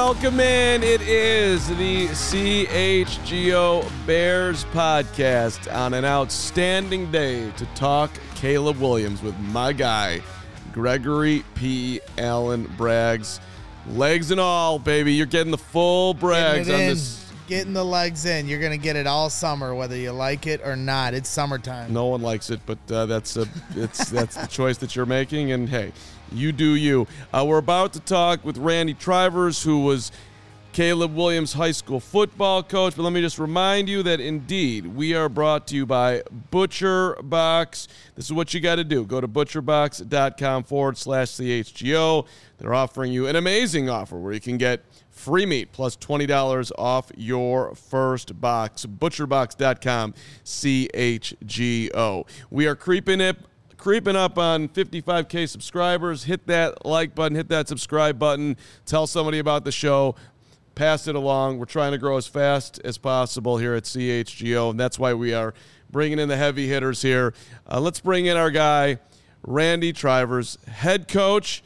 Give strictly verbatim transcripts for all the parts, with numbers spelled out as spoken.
welcome in. It is the C H G O Bears podcast on an outstanding day to talk Caleb Williams with my guy, Gregory P. Allen Braggs. Legs and all, baby. You're getting the full Braggs on this. Getting the legs in. You're going to get it all summer, whether you like it or not. It's summertime. No one likes it, but uh, that's a, it's that's the choice that you're making, and hey, you do you. Uh, we're about to talk with Randy Trivers, who was Caleb Williams' high school football coach, but let me just remind you that indeed we are brought to you by Butcher Box. This is what you got to do. Go to butcherbox.com forward slash CHGO. They're offering you an amazing offer where you can get free meat plus twenty dollars off your first box. butcherbox dot com C H G O. We are creeping it. Creeping up on fifty-five K subscribers. Hit that like button. Hit that subscribe button. Tell somebody about the show. Pass it along. We're trying to grow as fast as possible here at C H G O, and that's why we are bringing in the heavy hitters here. Uh, let's bring in our guy, Randy Trivers, head coach,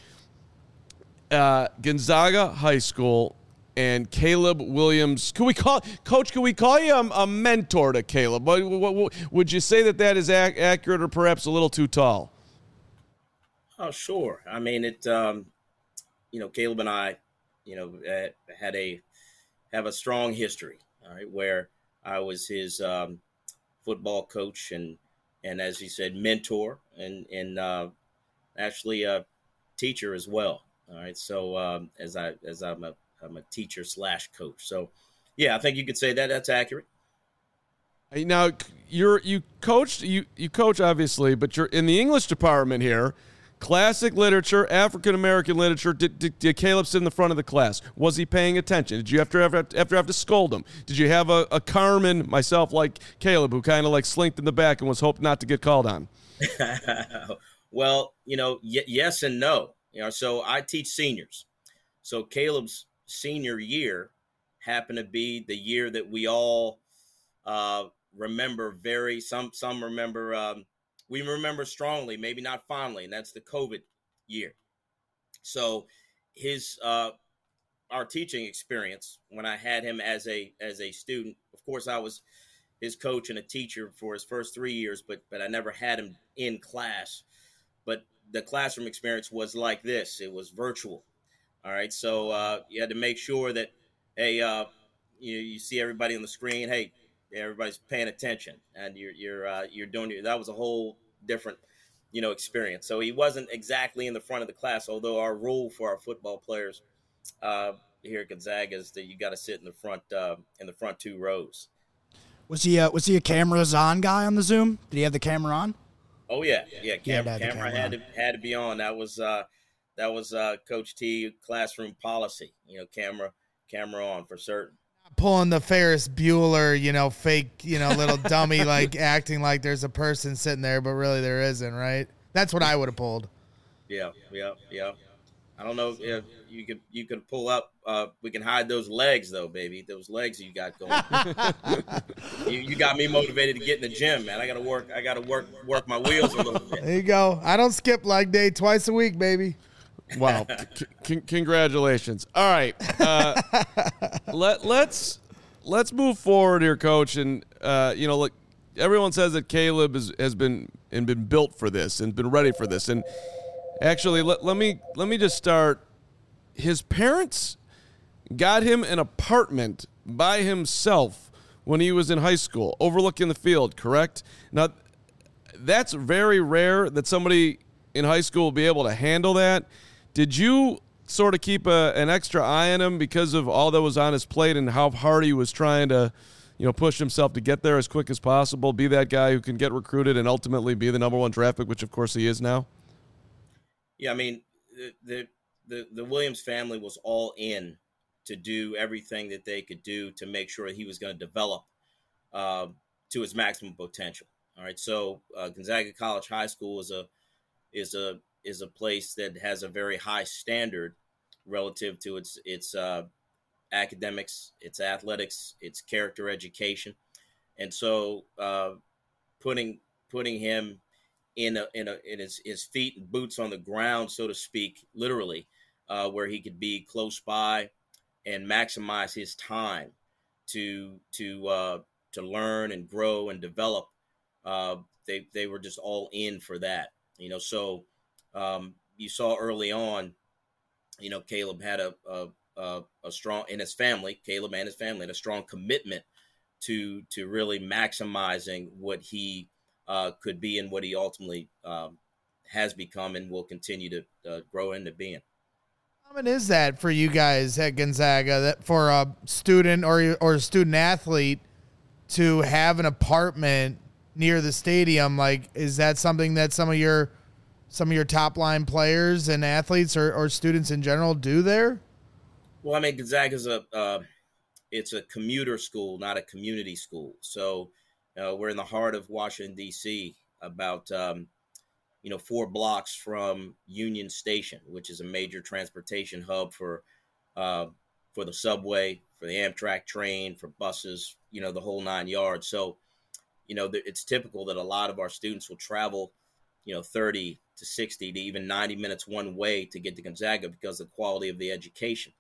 uh, Gonzaga High School, and Caleb Williams. Can we call Coach? Can we call you a, a mentor to Caleb? What, what, what, would you say that that is ac- accurate, or perhaps a little too tall? Oh, sure. I mean, it. Um, you know, Caleb and I, you know, had a have a strong history. All right, where I was his um, football coach and and as he said, mentor and and uh, actually a teacher as well. All right, so um, as I as I'm a I'm a teacher slash coach. So, yeah, I think you could say that that's accurate. Now, you're you coached you you coach obviously, but you're in the English department here. Classic literature, African American literature. Did, did, did Caleb sit in the front of the class? Was he paying attention? Did you have to have, have to have to scold him? Did you have a, a Carmen, myself like Caleb, who kind of like slinked in the back and was hoping not to get called on? Well, you know, y- yes and no. You know, so I teach seniors. So Caleb's senior year happened to be the year that we all uh, remember very. Some some remember. Um, we remember strongly, maybe not fondly, and that's the COVID year. So his uh, our teaching experience when I had him as a as a student. Of course, I was his coach and a teacher for his first three years, but but I never had him in class. But the classroom experience was like this. It was virtual. All right. So uh, you had to make sure that, hey, uh, you, you see everybody on the screen. Hey, everybody's paying attention and you're, you're, uh, you're doing it. That was a whole different, you know, experience. So he wasn't exactly in the front of the class, although our rule for our football players uh, here at Gonzaga is that you got to sit in the front, uh, in the front two rows. Was he, uh, was he a cameras on guy on the Zoom? Did he have the camera on? Oh yeah. Yeah. Cam- yeah camera, camera had to, had to be on. That was, uh, that was uh, Coach T classroom policy, you know, camera, camera on for certain. Pulling the Ferris Bueller, you know, fake, you know, little dummy, like acting like there's a person sitting there, but really there isn't, right? That's what I would have pulled. Yeah, yeah, yeah. I don't know if you could you could pull up. Uh, we can hide those legs though, baby. Those legs you got going. you, you got me motivated to get in the gym, man. I got to work. I got to work work my wheels a little bit. There you go. I don't skip leg day twice a week, baby. Wow! C- c- congratulations. All right, uh, let let's let's move forward here, Coach. And uh, you know, look, everyone says that Caleb is, has been and been built for this and been ready for this. And actually, let let me let me just start. His parents got him an apartment by himself when he was in high school, overlooking the field. Correct? Now, that's very rare that somebody in high school will be able to handle that. Did you sort of keep a, an extra eye on him because of all that was on his plate and how hard he was trying to, you know, push himself to get there as quick as possible, be that guy who can get recruited and ultimately be the number one draft pick, which of course he is now? Yeah, I mean, the the the, the Williams family was all in to do everything that they could do to make sure he was going to develop uh, to his maximum potential. All right, so uh, Gonzaga College High School is a is a is a place that has a very high standard relative to its its uh, academics, its athletics, its character education, and so uh, putting putting him in a, in a in his, his feet and boots on the ground, so to speak, literally, uh, where he could be close by, and maximize his time to to uh, to learn and grow and develop. Uh, they they were just all in for that, you know. So um, you saw early on, you know, Caleb had a, a a a strong in his family. Caleb and his family had a strong commitment to to really maximizing what he uh, could be and what he ultimately um, has become and will continue to uh, grow into being. How common is that for you guys at Gonzaga, that for a student or or a student athlete to have an apartment near the stadium? Like, is that something that some of your some of your top line players and athletes or, or students in general do there? Well, I mean, Gonzaga's a uh, it's a commuter school, not a community school. So uh, we're in the heart of Washington, D C, about um, you know four blocks from Union Station, which is a major transportation hub for uh, for the subway, for the Amtrak train, for buses, you know, the whole nine yards. So you know, it's typical that a lot of our students will travel, you know, thirty to sixty to even ninety minutes one way to get to Gonzaga because of the quality of the education.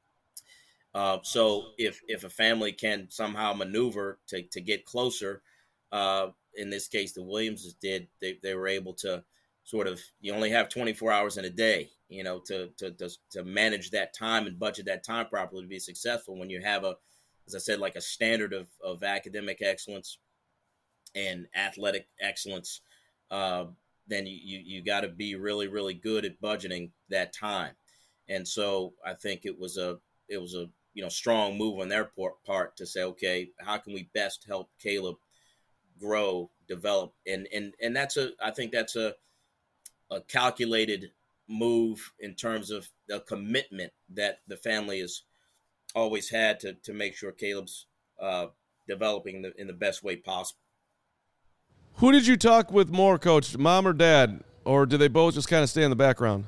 Uh, so if if a family can somehow maneuver to, to get closer, uh, in this case, the Williamses did, they, they were able to sort of, you only have twenty-four hours in a day, you know, to, to, to, to manage that time and budget that time properly to be successful when you have a, as I said, like a standard of, of academic excellence and athletic excellence, uh, then you, you, you got to be really, really good at budgeting that time. And so I think it was a, it was a, you know, strong move on their part to say, okay, how can we best help Caleb grow, develop? And, and, and that's a, I think that's a, a calculated move in terms of the commitment that the family has always had to, to make sure Caleb's uh, developing the, in the best way possible. Who did you talk with more, Coach, mom or dad, or did they both just kind of stay in the background?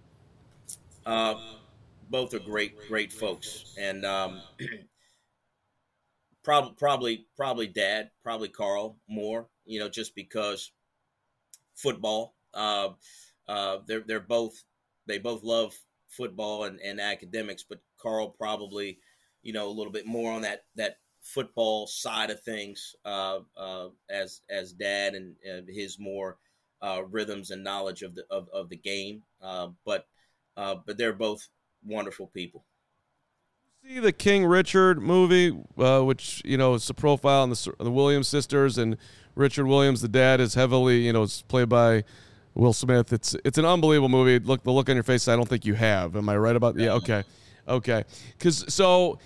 Uh, both are great, great folks, and um, probably, probably, probably dad, probably Carl more. You know, just because football. Uh, uh, they're they're both they both love football and, and academics, but Carl probably, you know, a little bit more on that that. football side of things uh, uh, as as dad and uh, his more uh, rhythms and knowledge of the of, of the game, uh, but uh, but they're both wonderful people. See the King Richard movie, uh, which you know is a profile on the the Williams sisters, and Richard Williams, the dad, is heavily you know is played by Will Smith. It's it's an unbelievable movie. Look the look on your face. I don't think you have. Am I right about? Yeah. Okay. Okay. Because so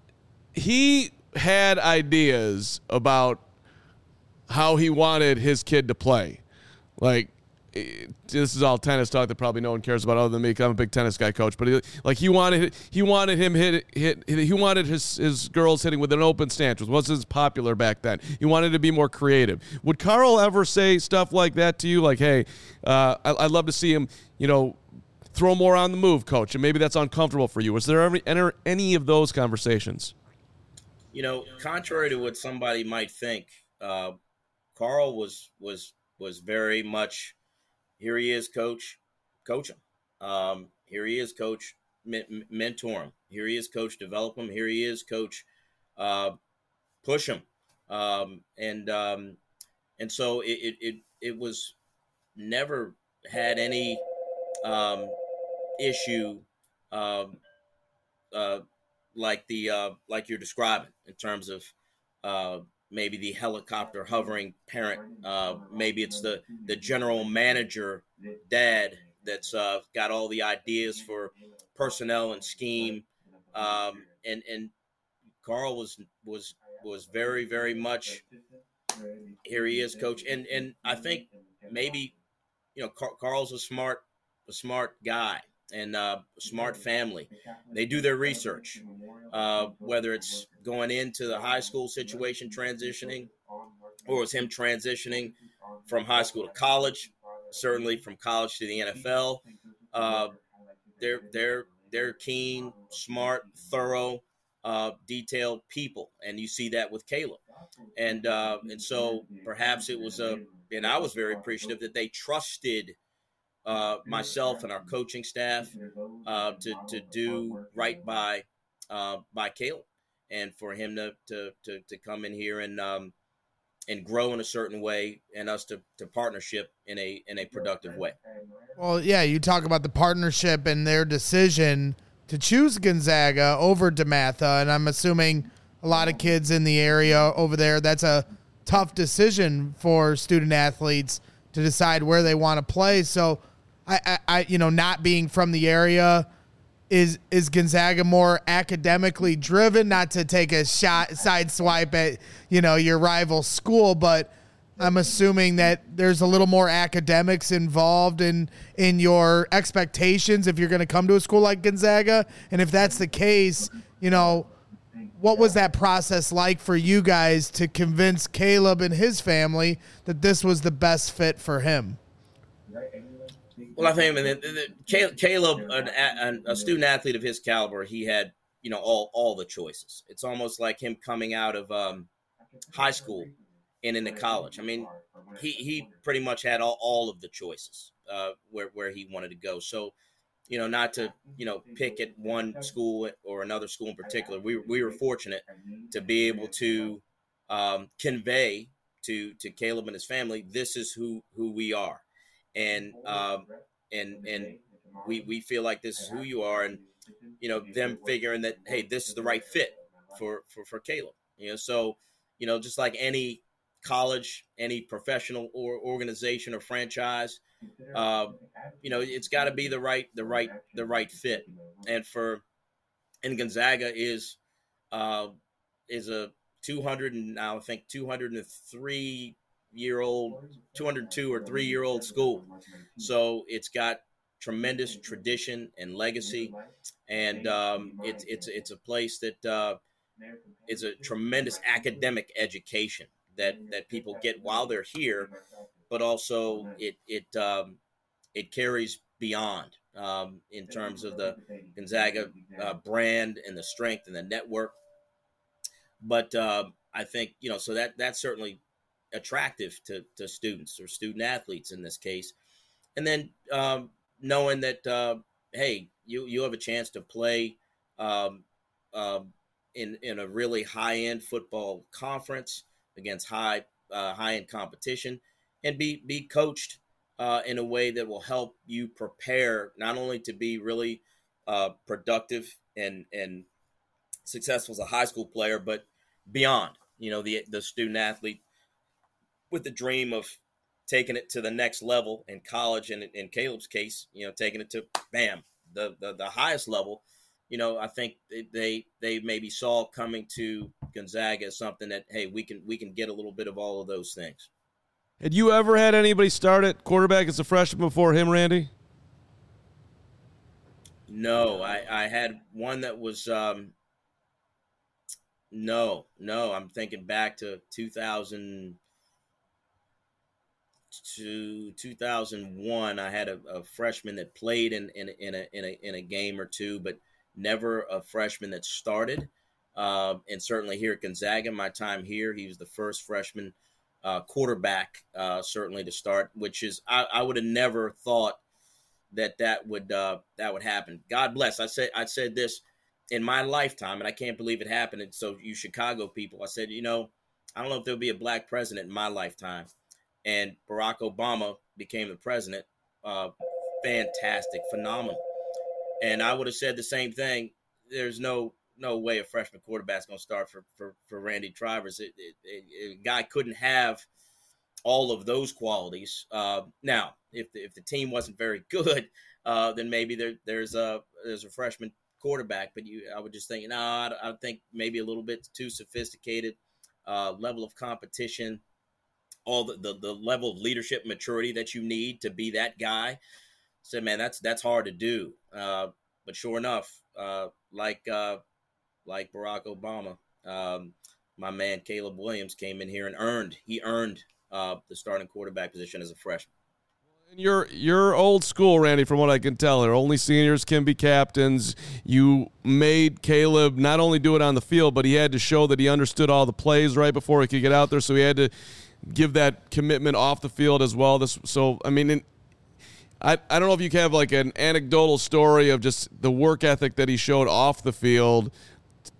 he had ideas about how he wanted his kid to play. Like, it, this is all tennis talk that probably no one cares about other than me, because I'm a big tennis guy, Coach. But he, like he wanted he wanted him hit hit he wanted his his girls hitting with an open stance, which wasn't as popular back then. He wanted to be more creative. Would Carl ever say stuff like that to you? Like, hey, uh, I, I'd love to see him, you know, throw more on the move, Coach, and maybe that's uncomfortable for you. Was there ever enter any of those conversations? You know, contrary to what somebody might think, uh, Carl was was was very much, here he is, Coach, coach him. Um, here he is, Coach, men- mentor him. Here he is, Coach, develop him. Here he is, Coach, uh, push him. Um, and um, and so it, it it it was never had any um, issue. Um, uh, like the uh, like you're describing in terms of uh, maybe the helicopter hovering parent. Uh, maybe it's the, the general manager dad that's uh, got all the ideas for personnel and scheme. Um, and and Carl was was was very, very much, here he is, Coach. And and I think maybe, you know, Car- Carl's a smart a smart guy. And uh, smart family. They do their research, uh, whether it's going into the high school situation, transitioning, or it's him transitioning from high school to college, certainly from college to the N F L. Uh, they're they're they're keen, smart, thorough, uh, detailed people, and you see that with Caleb. And uh, and so perhaps it was a, and I was very appreciative that they trusted Uh, myself and our coaching staff uh, to to do right by uh, by Caleb, and for him to to to, to come in here and um, and grow in a certain way, and us to, to partnership in a in a productive way. Well, yeah, you talk about the partnership and their decision to choose Gonzaga over DeMatha, and I'm assuming a lot of kids in the area over there, that's a tough decision for student athletes to decide where they want to play. So, I, I, I you know, not being from the area, is is Gonzaga more academically driven? Not to take a shot, side swipe at, you know, your rival school, but I'm assuming that there's a little more academics involved in in your expectations if you're going to come to a school like Gonzaga. And if that's the case, you know, what was that process like for you guys to convince Caleb and his family that this was the best fit for him? Well, I think I mean, the, the, Caleb, an, a student athlete of his caliber, he had, you know, all all the choices. It's almost like him coming out of um, high school and into college. I mean, he, he pretty much had all, all of the choices uh, where, where he wanted to go. So, you know, not to, you know, pick at one school or another school in particular, we, we were fortunate to be able to um, convey to, to Caleb and his family, this is who, who we are. And, um, and, and we, we feel like this is who you are. And, you know, them figuring that, hey, this is the right fit for, for, for Caleb, you know? So, you know, just like any college, any professional or organization or franchise, uh, you know, it's got to be the right, the right, the right fit. And for, and Gonzaga is, uh, is a two hundred and now I think two hundred three year old, two hundred two or three year old school. So it's got tremendous tradition and legacy. And um, it's, it's, it's a place that uh, is a tremendous academic education that, that people get while they're here, but also it, it, um, it carries beyond um, in terms of the Gonzaga uh, brand and the strength and the network. But uh, I think, you know, so that that's certainly attractive to, to students or student athletes in this case. And then um, knowing that, uh, hey, you, you have a chance to play um, uh, in, in a really high-end football conference against high uh, high-end competition, and be be coached uh, in a way that will help you prepare not only to be really uh, productive and and successful as a high school player, but beyond. You know, the the student athlete with the dream of taking it to the next level in college, and in Caleb's case, you know, taking it to bam the the, the highest level. You know, I think they they maybe saw coming to Gonzaga as something that, hey, we can we can get a little bit of all of those things. Had you ever had anybody start at quarterback as a freshman before him, Randy? No, I, I had one that was um, no, no. I'm thinking back to two thousand to two thousand one. I had a, a freshman that played in in in a, in a in a game or two, but never a freshman that started. Uh, and certainly here at Gonzaga, my time here, he was the first freshman uh, quarterback, uh, certainly to start, which is, I, I would have never thought that that would, uh, that would happen. God bless. I said, I said this in my lifetime, and I can't believe it happened. And so you Chicago people, I said, you know, I don't know if there'll be a black president in my lifetime. And Barack Obama became the president. Uh, fantastic, phenomenal. And I would have said the same thing. There's no no way a freshman quarterback's going to start for, for, for Randy Trivers. It, it, it, a guy couldn't have all of those qualities. Uh, now, if the, if the team wasn't very good, uh, then maybe there, there's a there's a freshman quarterback. But you, I would just think, no, I, I think maybe a little bit too sophisticated uh, level of competition, all the, the the level of leadership maturity that you need to be that guy. Said, man, that's that's hard to do. Uh, but sure enough, uh, like uh, like Barack Obama, um, my man Caleb Williams came in here and earned he earned uh, the starting quarterback position as a freshman. And you're you're old school, Randy, from what I can tell here. Only seniors can be captains. You made Caleb not only do it on the field, but he had to show that he understood all the plays right before he could get out there. So he had to give that commitment off the field as well. This so I mean. In, I, I don't know if you can have like an anecdotal story of just the work ethic that he showed off the field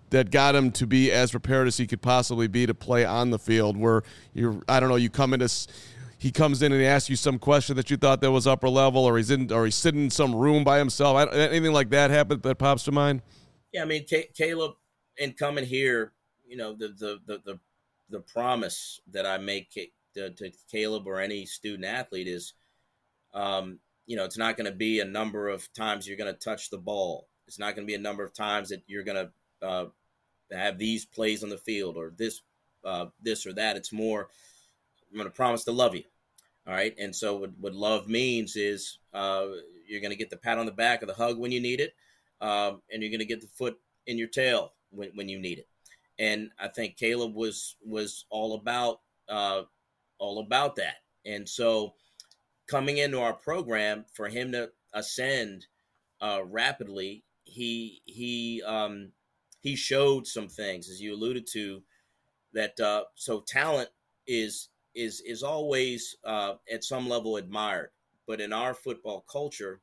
that got him to be as prepared as he could possibly be to play on the field? Where you're, I don't know, you come into, he comes in and he asks you some question that you thought that was upper level, or he's in, or he's sitting in some room by himself. I, anything like that happened that pops to mind? Yeah, I mean, C- Caleb, in coming here, you know, the the the the, the promise that I make to, to Caleb or any student athlete is, um, you know, it's not going to be a number of times you're going to touch the ball. It's not going to be a number of times that you're going to uh, have these plays on the field or this, uh, this or that. It's more, I'm going to promise to love you. All right. And so what, what love means is uh, you're going to get the pat on the back or the hug when you need it. Um, and you're going to get the foot in your tail when, when you need it. And I think Caleb was, was all about, uh, all about that. And so coming into our program, for him to ascend uh, rapidly, he, he, um, he showed some things, as you alluded to, that uh, so talent is is is always uh, at some level admired. But in our football culture,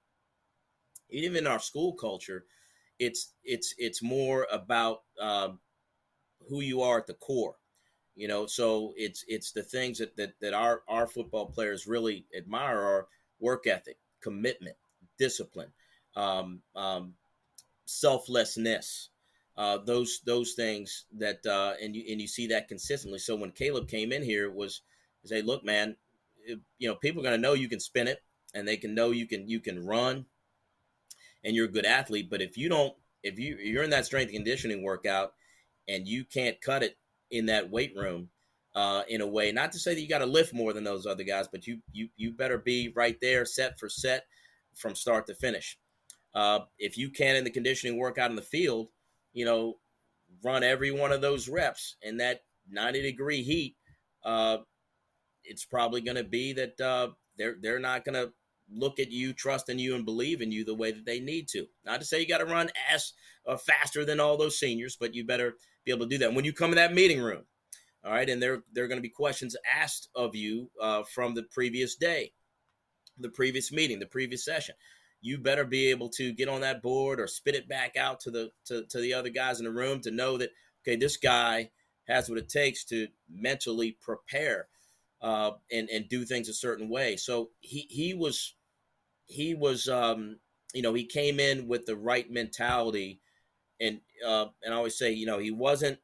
even in our school culture, it's it's it's more about uh, who you are at the core. You know, so it's it's the things that that, that our, our football players really admire are work ethic, commitment, discipline, um, um, selflessness. Uh, those those things that uh, and you and you see that consistently. So when Caleb came in here, it was say, look, man, it, you know, people are going to know you can spin it, and they can know you can you can run, and you're a good athlete. But if you don't, if you you're in that strength and conditioning workout, and you can't cut it in that weight room, uh, in a way, not to say that you got to lift more than those other guys, but you you you better be right there, set for set, from start to finish. Uh, if you can in the conditioning workout in the field, you know, run every one of those reps in that ninety degree heat, uh, it's probably going to be that uh, they're they're not going to look at you, trust in you, and believe in you the way that they need to. Not to say you got to run as uh, faster than all those seniors, but you better be able to do that. When you come in that meeting room, all right, and there there are going to be questions asked of you uh, from the previous day, the previous meeting, the previous session. You better be able to get on that board or spit it back out to the to, to the other guys in the room to know that, okay, this guy has what it takes to mentally prepare uh, and and do things a certain way. So he he was he was um, you know, he came in with the right mentality, and uh, and I always say, you know, he wasn't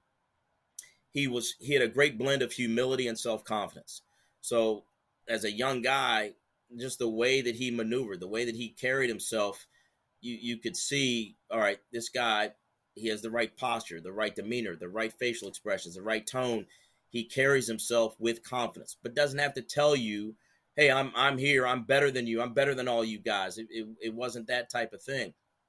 he was he had a great blend of humility and self-confidence. So as a young guy, just the way that he maneuvered, the way that he carried himself, you, you could see, all right, this guy, he has the right posture, the right demeanor, the right facial expressions, the right tone. He carries himself with confidence, but doesn't have to tell you, hey, I'm I'm here, I'm better than you, I'm better than all you guys. It, it, it wasn't that type of thing.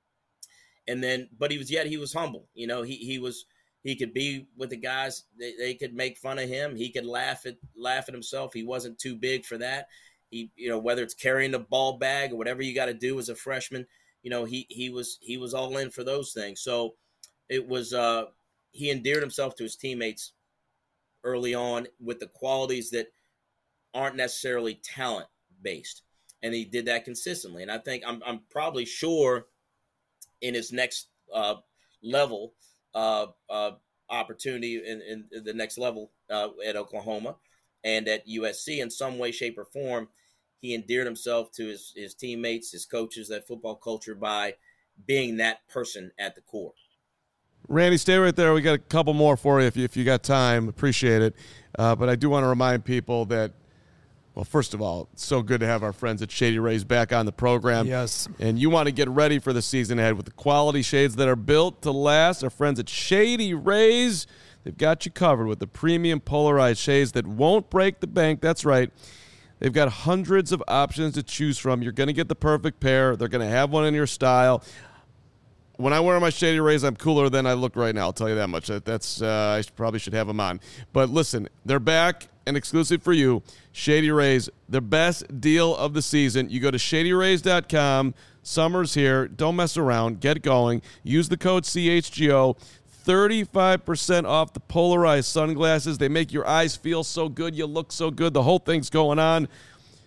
And then, but he was, yet he was humble. You know, he he was, he could be with the guys, they, they could make fun of him. He could laugh at, laugh at himself. He wasn't too big for that. He, you know, whether it's carrying the ball bag or whatever you got to do as a freshman, you know, he he was he was all in for those things. So it was uh, he endeared himself to his teammates early on with the qualities that aren't necessarily talent based, and he did that consistently. And I think I'm I'm probably sure in his next uh, level uh, uh, opportunity in, in the next level uh, at Oklahoma and at U S C, in some way, shape, or form, he endeared himself to his, his teammates, his coaches, that football culture, by being that person at the core. Randy, stay right there. We got a couple more for you if you, if you got time. Appreciate it. Uh, but I do want to remind people that, well, first of all, it's so good to have our friends at Shady Rays back on the program. Yes. And you want to get ready for the season ahead with the quality shades that are built to last. Our friends at Shady Rays, they've got you covered with the premium polarized shades that won't break the bank. That's right. They've got hundreds of options to choose from. You're going to get the perfect pair. They're going to have one in your style. When I wear my Shady Rays, I'm cooler than I look right now. I'll tell you that much. That's uh, I probably should have them on. But listen, they're back and exclusive for you. Shady Rays, the best deal of the season. You go to shady rays dot com. Summer's here. Don't mess around. Get going. Use the code C H G O. thirty-five percent off the polarized sunglasses. They make your eyes feel so good. You look so good. The whole thing's going on.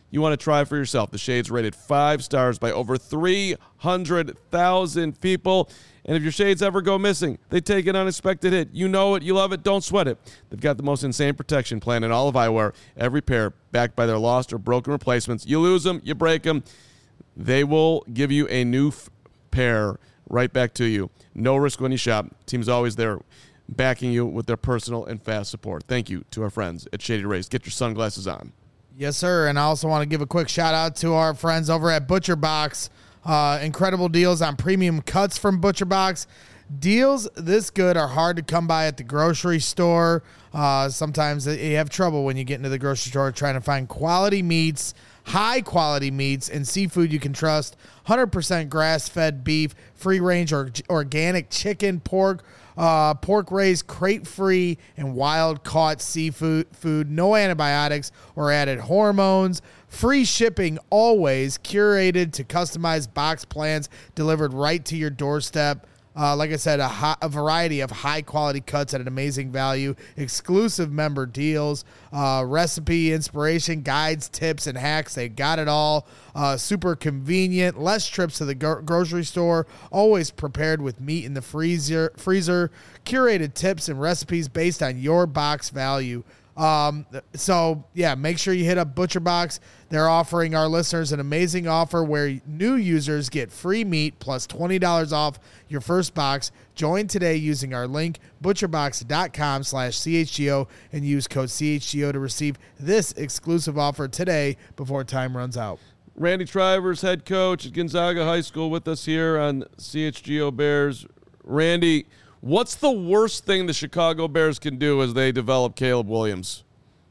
you want to try for yourself. The Shade's rated five stars by over three hundred thousand people. And if your shades ever go missing, they take an unexpected hit. You know it, you love it, don't sweat it. They've got the most insane protection plan in all of eyewear. Every pair backed by their lost or broken replacements. You lose them, you break them. They will give you a new f- pair right back to you. No risk when you shop. Team's always there backing you with their personal and fast support. Thank you to our friends at Shady Rays. Get your sunglasses on. Yes, sir. And I also want to give a quick shout out to our friends over at Butcher Box. Uh, incredible deals on premium cuts from Butcher Box. Deals this good are hard to come by at the grocery store. Uh, sometimes you have trouble when you get into the grocery store trying to find quality meats, high quality meats, and seafood you can trust. one hundred percent grass-fed beef, free-range or organic chicken, pork, uh, pork-raised, crate-free, and wild-caught seafood. Food, no antibiotics or added hormones. Free shipping always, curated to customized box plans delivered right to your doorstep. Uh, like I said, a, high, a variety of high-quality cuts at an amazing value, exclusive member deals, uh, recipe, inspiration, guides, tips, and hacks. They got it all. Uh, super convenient, less trips to the gro- grocery store, always prepared with meat in the freezer, freezer, curated tips and recipes based on your box value. Um, so yeah, make sure you hit up Butcher Box. They're offering our listeners an amazing offer where new users get free meat plus twenty dollars off your first box. Join today using our link, butcherbox.com slash CHGO, and use code C H G O to receive this exclusive offer today before time runs out. Randy Trivers, head coach at Gonzaga High School, with us here on C H G O Bears. Randy, what's the worst thing the Chicago Bears can do as they develop Caleb Williams?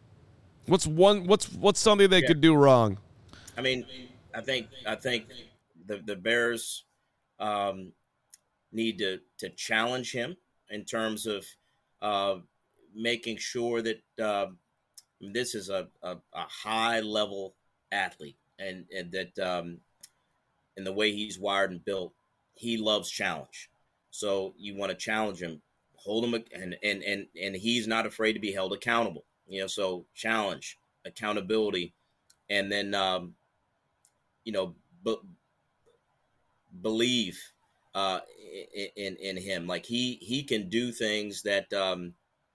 What's one? What's what's something they yeah. could do wrong? I mean, I think I think the the Bears um, need to to challenge him in terms of uh, making sure that uh, this is a, a, a high level athlete, and and that um, in the way he's wired and built, he loves challenge. So you want to challenge him, hold him, and and and and he's not afraid to be held accountable. You know, so challenge, accountability, and then um, you know, b- believe uh, in in him. Like he he can do things that um,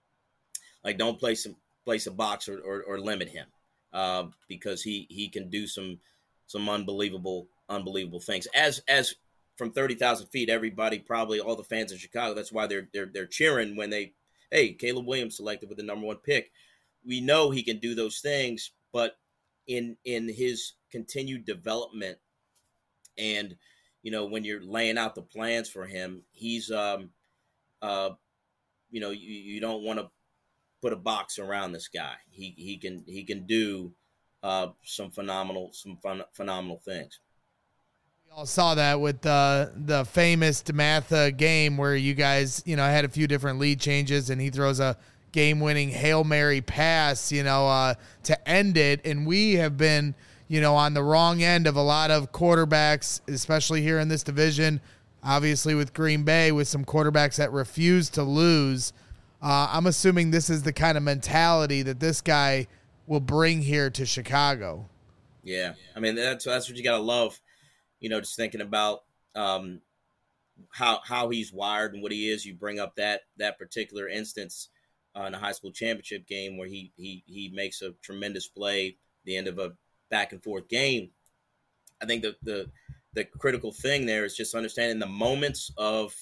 like don't place some place a box or, or, or limit him uh, because he he can do some some unbelievable unbelievable things. As as from thirty thousand feet, everybody, probably all the fans in Chicago, that's why they're they're they're cheering when they, hey, Caleb Williams selected with the number one pick. We know he can do those things, but in in his continued development, and you know, when you're laying out the plans for him, he's um uh you know, you, you don't want to put a box around this guy. He he can he can do uh some phenomenal some fun, phenomenal things. All saw that with the the famous DeMatha game where you guys, you know, had a few different lead changes and he throws a game-winning Hail Mary pass, you know, uh, to end it. And we have been, you know, on the wrong end of a lot of quarterbacks, especially here in this division, obviously with Green Bay, with some quarterbacks that refuse to lose. Uh, I'm assuming this is the kind of mentality that this guy will bring here to Chicago. Yeah. I mean, that's, that's what you got to love. You know, just thinking about um, how how he's wired and what he is. You bring up that that particular instance uh, in a high school championship game where he he he makes a tremendous play at the end of a back and forth game. I think the the the critical thing there is just understanding the moments of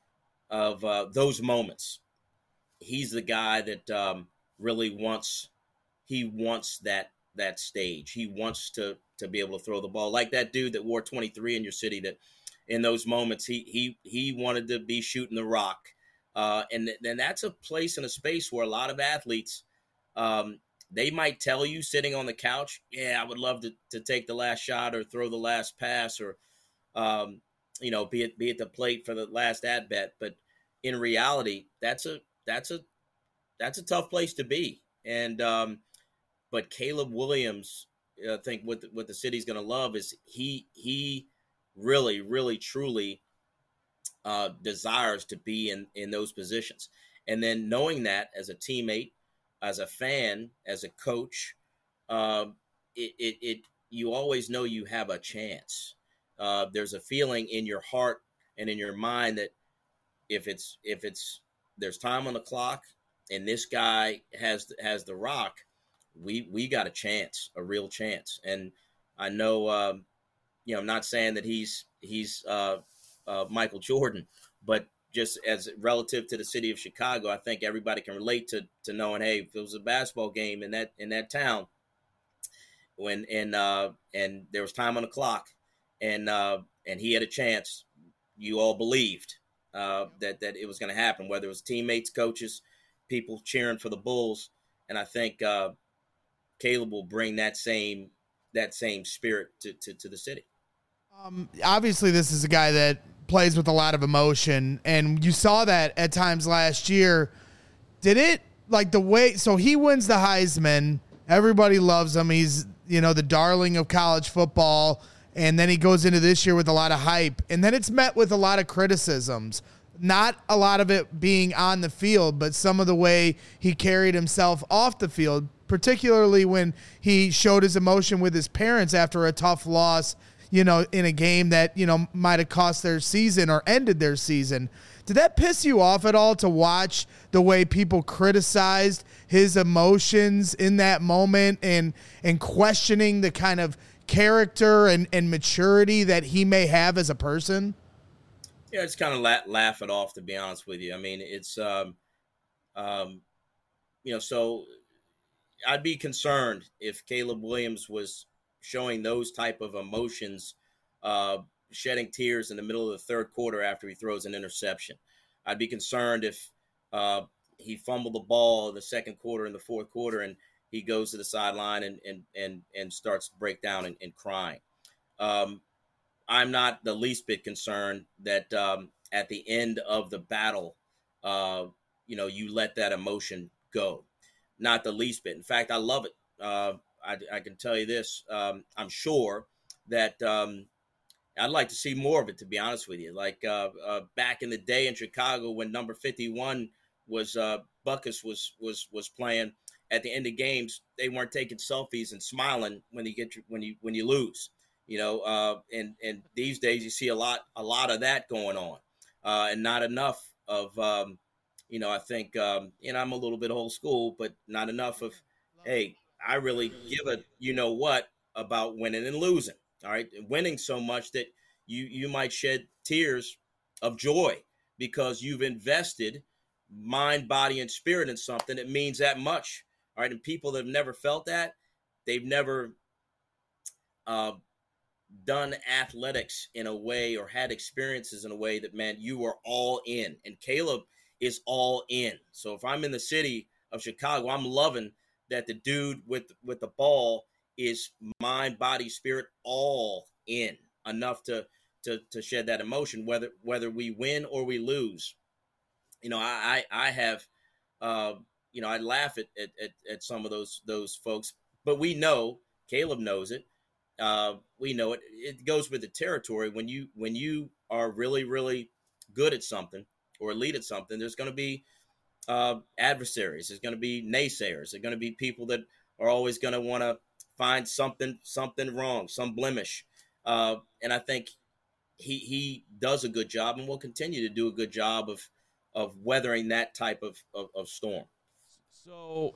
of uh, those moments. He's the guy that um, really wants he wants that that stage. He wants to to be able to throw the ball like that dude that wore twenty-three in your city, that in those moments he he he wanted to be shooting the rock. Uh, and then that's a place and a space where a lot of athletes, um, they might tell you sitting on the couch, yeah, I would love to, to take the last shot or throw the last pass or, um, you know, be at, be at the plate for the last at bat. But in reality, that's a, that's a, that's a tough place to be. And, um, but Caleb Williams, I think what the, what the city's going to love is he, he really, really, truly, Uh, desires to be in, in those positions. And then knowing that as a teammate, as a fan, as a coach, uh, it, it, it you always know you have a chance. Uh, there's a feeling in your heart and in your mind that if it's if it's there's time on the clock and this guy has has the rock, we we got a chance, a real chance. And I know, um, you know, I'm not saying that he's he's uh, uh, Michael Jordan, but just as relative to the city of Chicago, I think everybody can relate to to knowing, hey, if it was a basketball game in that in that town, when and uh, and there was time on the clock, and uh, and he had a chance, you all believed uh, that that it was going to happen, whether it was teammates, coaches, people cheering for the Bulls, and I think uh, Caleb will bring that same that same spirit to to, to the city. Um, obviously, this is a guy that plays with a lot of emotion, and you saw that at times last year. Did it, like, the way, so he wins the Heisman, everybody loves him, he's, you know, the darling of college football, and then he goes into this year with a lot of hype, and then it's met with a lot of criticisms, not a lot of it being on the field, but some of the way he carried himself off the field, particularly when he showed his emotion with his parents after a tough loss, you know, in a game that, you know, might have cost their season or ended their season. Did that piss you off at all to watch the way people criticized his emotions in that moment and and questioning the kind of character and, and maturity that he may have as a person? Yeah, it's kind of la- laugh it off, to be honest with you. I mean, it's, um, um, you know, so I'd be concerned if Caleb Williams was showing those type of emotions, uh, shedding tears in the middle of the third quarter after he throws an interception. I'd be concerned if uh, he fumbled the ball in the second quarter and the fourth quarter and he goes to the sideline and and and, and starts to break down and, and crying. Um, I'm not the least bit concerned that um, at the end of the battle, uh, you know, you let that emotion go. Not the least bit. In fact, I love it. Uh, I, I can tell you this. Um, I'm sure that um, I'd like to see more of it, to be honest with you. Like uh, uh, back in the day in Chicago when number fifty-one was uh, Buckus was was was playing. At the end of games, they weren't taking selfies and smiling when you get your, when you when you lose. You know, uh, and and these days you see a lot a lot of that going on, uh, and not enough of um, you know. I think um, you know I'm a little bit old school, but not enough of hey. I really give a you know what about winning and losing. All right, winning so much that you you might shed tears of joy because you've invested mind, body, and spirit in something that means that much. All right, and people that have never felt that, they've never uh, done athletics in a way or had experiences in a way that, man, you are all in. And Caleb is all in. So if I'm in the city of Chicago, I'm loving that the dude with with the ball is mind, body, spirit, all in enough to to to shed that emotion, whether whether we win or we lose. You know, I I, I have, uh, you know, I laugh at, at at at some of those those folks, but we know Caleb knows it. Uh, we know it. It goes with the territory. When you when you are really really good at something or elite at something, there's going to be Uh, adversaries. There's going to be naysayers. There's going to be people that are always going to want to find something something wrong, some blemish. Uh, and I think he he does a good job and will continue to do a good job of of weathering that type of, of, of storm. So,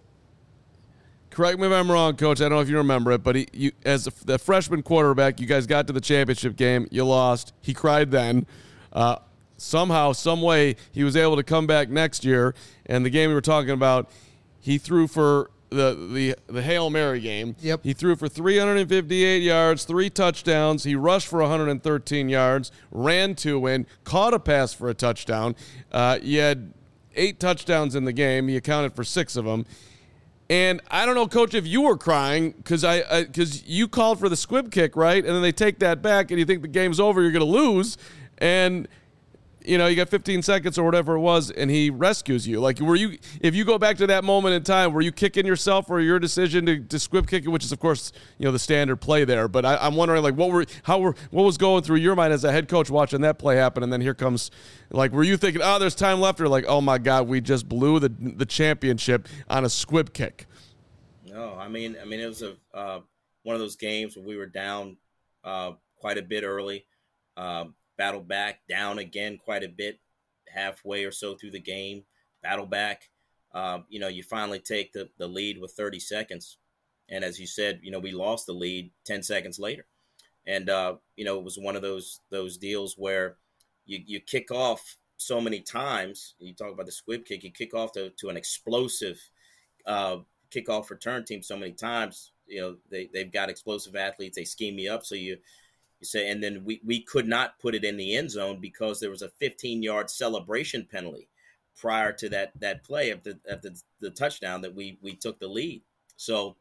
correct me if I'm wrong, Coach. I don't know if you remember it, but he, you, as a, the freshman quarterback, you guys got to the championship game. You lost. He cried then. Uh, Somehow, some way, he was able to come back next year. And the game we were talking about, he threw for the the, the Hail Mary game. Yep. He threw for three hundred fifty-eight yards, three touchdowns. He rushed for one hundred thirteen yards, ran two win, caught a pass for a touchdown. Uh, he had eight touchdowns in the game. He accounted for six of them. And I don't know, Coach, if you were crying because I because you called for the squib kick, right? And then they take that back, and you think the game's over, you're going to lose, and you know, you got fifteen seconds or whatever it was, and he rescues you. Like, were you, if you go back to that moment in time, were you kicking yourself for your decision to, to squib kick it, which is, of course, you know, the standard play there. But I, I'm wondering, like, what were, how were, what was going through your mind as a head coach watching that play happen? And then here comes, like, were you thinking, oh, there's time left, or like, oh my God, we just blew the the championship on a squib kick? No, I mean, I mean, it was a, uh, one of those games where we were down uh, quite a bit early, uh, battled back, down again quite a bit, halfway or so through the game, battle back. Uh, you know, you finally take the, the lead with thirty seconds. And as you said, you know, we lost the lead ten seconds later. And, uh, you know, it was one of those those deals where you, you kick off so many times. You talk about the squib kick, you kick off to, to an explosive uh, kickoff return team so many times. You know, they, they've got explosive athletes. They scheme you up. So you, you say, and then we, we could not put it in the end zone because there was a fifteen-yard celebration penalty prior to that that play of the, of the, the touchdown that we we took the lead. So,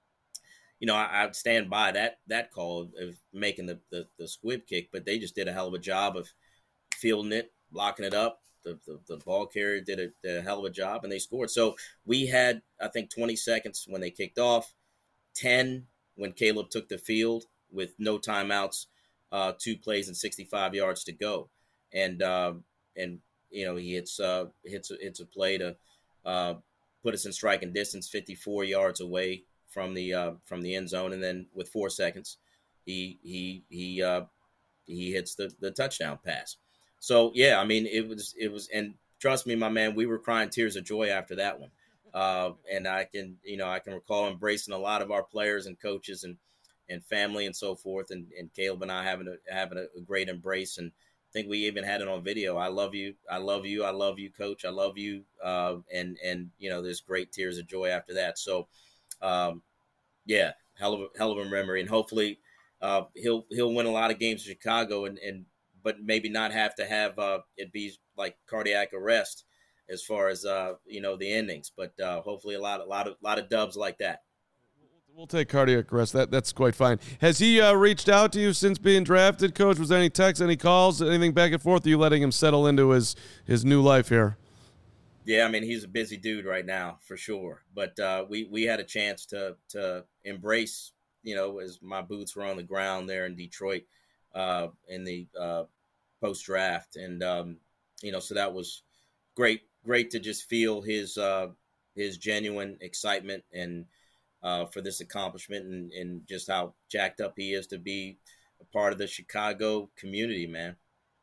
you know, I, I stand by that that call of making the, the, the squib kick, but they just did a hell of a job of fielding it, blocking it up. The, the, the ball carrier did a, did a hell of a job, and they scored. So we had, I think, twenty seconds when they kicked off, ten when Caleb took the field with no timeouts, uh, two plays and sixty-five yards to go. And, uh, and you know, he hits, uh, hits, hits a play to uh, put us in striking distance fifty-four yards away from the uh, from the end zone. And then with four seconds, he he he uh, he hits the, the touchdown pass. So, yeah, I mean, it was, it was, and trust me, my man, we were crying tears of joy after that one. Uh, and I can, you know, I can recall embracing a lot of our players and coaches and, and family and so forth. And, and Caleb and I having a, having a great embrace. And I think we even had it on video. I love you. I love you. I love you, coach. I love you. Uh, and, and, you know, there's great tears of joy after that. So, um, yeah, hell of a, hell of a memory. And hopefully uh, he'll, he'll win a lot of games in Chicago and, and, but maybe not have to have uh, it be like cardiac arrest as far as, uh, you know, the endings. But uh, hopefully a lot, a lot of, lot of dubs like that. We'll take cardiac arrest. That that's quite fine. Has he uh, reached out to you since being drafted, Coach? Was there any texts, any calls, anything back and forth? Are you letting him settle into his his new life here? Yeah, I mean, he's a busy dude right now for sure. But uh, we we had a chance to to embrace, you know, as my boots were on the ground there in Detroit uh, in the uh, post draft, and um, you know, so that was great. Great to just feel his uh, his genuine excitement and uh, for this accomplishment, and, and just how jacked up he is to be a part of the Chicago community, man.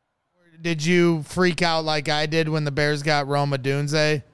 Did you freak out like I did when the Bears got Rome Odunze?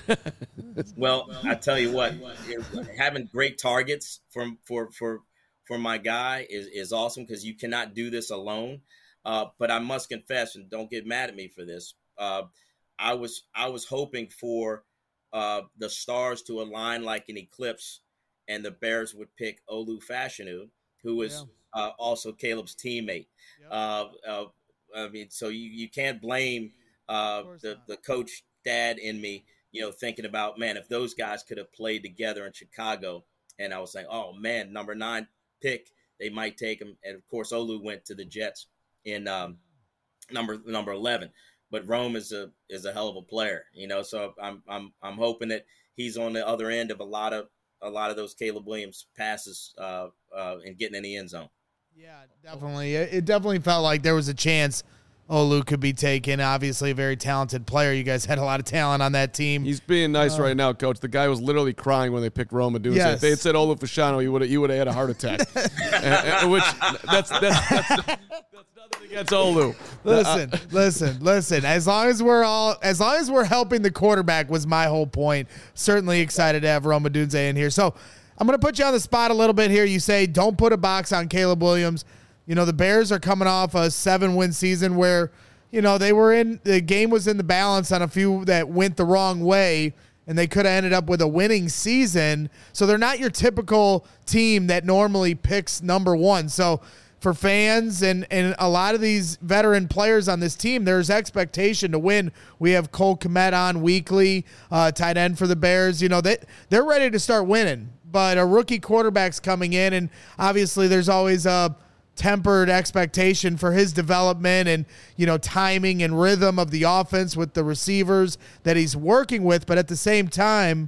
Well, I tell you what, having great targets for for for for my guy is is awesome, because you cannot do this alone. Uh, but I must confess, and don't get mad at me for this. Uh, I was I was hoping for uh, the stars to align like an eclipse, and the Bears would pick Olu Fashanu, who is yeah. uh, also Caleb's teammate. Yep. Uh, uh, I mean, so you, you can't blame uh, the the coach dad in me, you know, thinking about, man, if those guys could have played together in Chicago, and I was saying, oh man, number nine pick, they might take him, and of course Olu went to the Jets in um, number number eleven, but Rome is a is a hell of a player, you know. So I'm I'm I'm hoping that he's on the other end of a lot of a lot of those Caleb Williams passes uh, uh, and getting in the end zone. Yeah, definitely. It definitely felt like there was a chance Olu could be taken. Obviously, a very talented player. You guys had a lot of talent on that team. He's being nice uh, right now, Coach. The guy was literally crying when they picked Rome Odunze. Yes. If they had said Olu Fashanu, you would have you would have had a heart attack. and, and, which that's that's that's, that's nothing against Olu. Listen, uh, listen, listen. As long as we're all, as long as we're helping the quarterback, was my whole point. Certainly excited to have Rome Odunze in here. So I'm going to put you on the spot a little bit here. You say don't put a box on Caleb Williams. You know, the Bears are coming off a seven-win season where, you know, they were in, the game was in the balance on a few that went the wrong way, and they could have ended up with a winning season. So they're not your typical team that normally picks number one. So for fans and, and a lot of these veteran players on this team, there's expectation to win. We have Cole Kmet on weekly, uh, tight end for the Bears. You know, they, they're ready to start winning. But a rookie quarterback's coming in, and obviously there's always a tempered expectation for his development and, you know, timing and rhythm of the offense with the receivers that he's working with. But at the same time,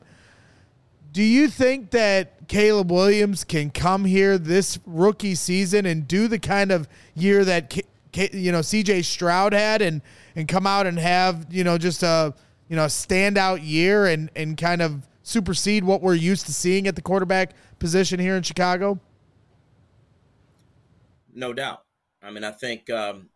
do you think that Caleb Williams can come here this rookie season and do the kind of year that, K- K- you know, C J Stroud had and, and come out and have, you know, just a, you know, a standout year and, and kind of supersede what we're used to seeing at the quarterback position here in Chicago? no doubt. I mean, I think um,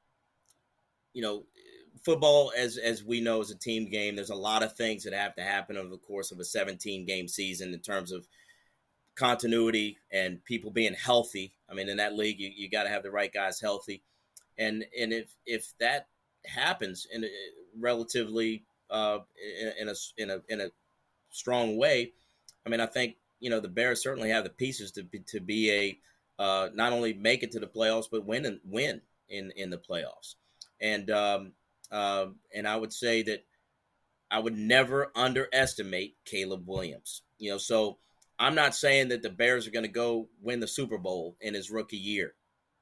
you know, football, as as we know, is a team game. There's a lot of things that have to happen over the course of a seventeen game season in terms of continuity and people being healthy. I mean, in that league, you, you got to have the right guys healthy, and and if if that happens in a relatively uh, in, in a in a in a strong way, I mean, I think you know the Bears certainly have the pieces to be, to be a uh, not only make it to the playoffs but win and win in in the playoffs, and um, uh, and I would say that I would never underestimate Caleb Williams. You know, so I'm not saying that the Bears are going to go win the Super Bowl in his rookie year,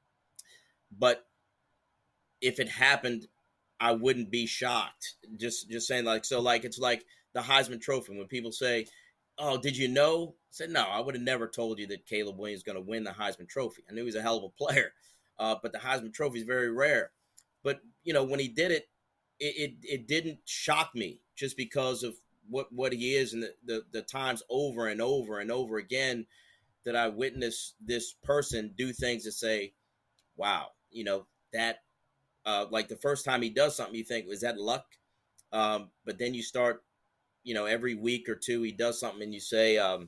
but if it happened, I wouldn't be shocked. Just just saying, like, so like it's like the Heisman Trophy when people say, "Oh, did you know?" I said, "No, I would have never told you that Caleb Williams is going to win the Heisman Trophy. I knew he was a hell of a player, uh, but the Heisman Trophy is very rare." But you know, when he did it, it it, it didn't shock me just because of what what he is and the, the the times over and over and over again that I witnessed this person do things to say, "Wow, you know that." Uh, like the first time he does something, you think, "Was that luck?" Um, but then you start, you know, every week or two he does something, and you say, um,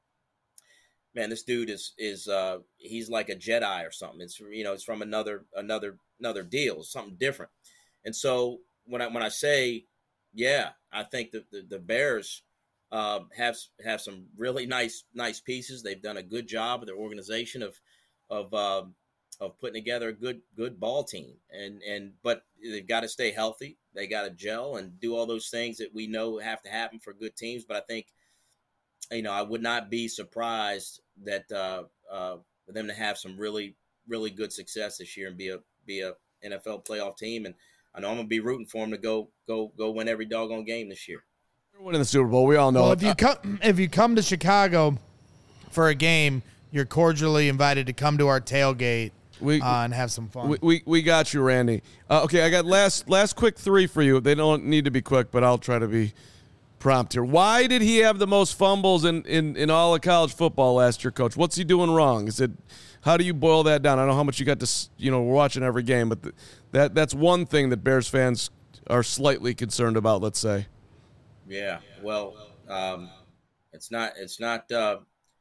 "Man, this dude is is uh, he's like a Jedi or something." It's you know, it's from another another another deal, something different. And so when I when I say, yeah, I think that the, the Bears uh, have have some really nice nice pieces. They've done a good job of their organization of of um, of putting together a good good ball team, and and but they've got to stay healthy. They got to gel and do all those things that we know have to happen for good teams. But I think, you know, I would not be surprised that uh, uh, for them to have some really really good success this year and be a be a N F L playoff team. And I know I'm gonna be rooting for them to go go go win every doggone game this year. They're winning the Super Bowl. We all know Well, it. if you come if you come to Chicago for a game, you're cordially invited to come to our tailgate. We, uh, and have some fun. We, we we got you, Randy. Uh, okay, I got last last quick three for you. They don't need to be quick, but I'll try to be prompt here. Why did he have the most fumbles in, in, in all of college football last year, Coach? What's he doing wrong? Is it how do you boil that down? I don't know how much you got to, you know, we're watching every game, but the, that that's one thing that Bears fans are slightly concerned about. Let's say. Yeah, well, um, it's not it's not. Uh,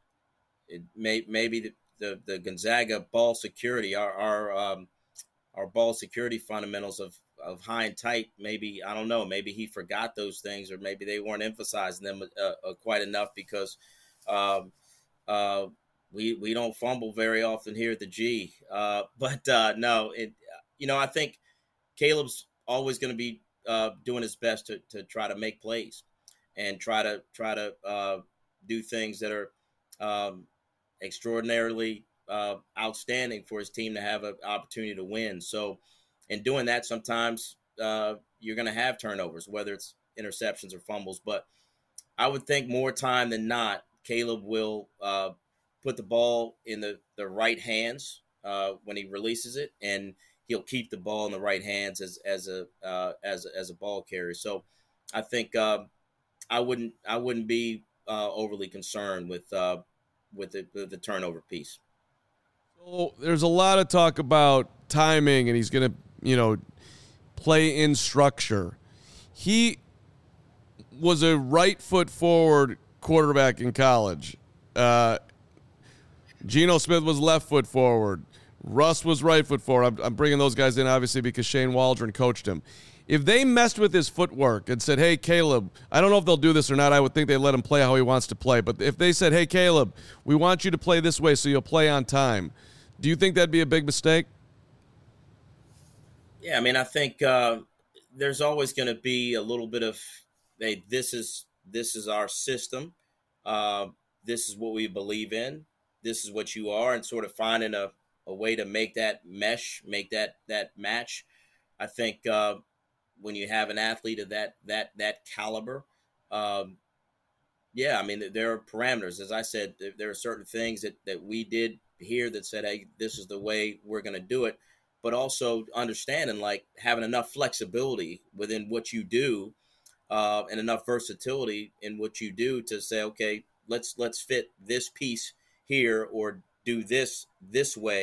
it may maybe the. The, the Gonzaga ball security, our our um, our ball security fundamentals of, of high and tight. Maybe I don't know. Maybe he forgot those things, or maybe they weren't emphasizing them uh, uh, quite enough because um, uh, we we don't fumble very often here at the G. Uh, but uh, no, it, you know I think Caleb's always going to be uh, doing his best to to try to make plays and try to try to uh, do things that are. Um, extraordinarily uh, outstanding for his team to have an opportunity to win. So in doing that, sometimes uh, you're going to have turnovers, whether it's interceptions or fumbles. But I would think more time than not, Caleb will uh, put the ball in the, the right hands uh, when he releases it, and he'll keep the ball in the right hands as as a uh, as as a ball carrier. So I think uh, I wouldn't I wouldn't be uh, overly concerned with uh, with the, the, the turnover piece. So there's a lot of talk about timing, and he's going to, you know, play in structure. He was a right foot forward quarterback in college. Uh, Geno Smith was left foot forward. Russ was right foot forward. I'm, I'm bringing those guys in, obviously, because Shane Waldron coached him. If they messed with his footwork and said, hey, Caleb, I don't know if they'll do this or not. I would think they let him play how he wants to play. But if they said, hey, Caleb, we want you to play this way so you'll play on time, do you think that'd be a big mistake? Yeah, I mean, I think uh, there's always going to be a little bit of, hey, this is this is our system. Uh, this is what we believe in. This is what you are, and sort of finding a, a way to make that mesh, make that that match. I think uh, when you have an athlete of that that that caliber, um, yeah, I mean, there are parameters. As I said, there are certain things that, that we did here that said, hey, this is the way we're going to do it. But also understanding, like, having enough flexibility within what you do uh, and enough versatility in what you do to say, okay, let's let's fit this piece here or do this this way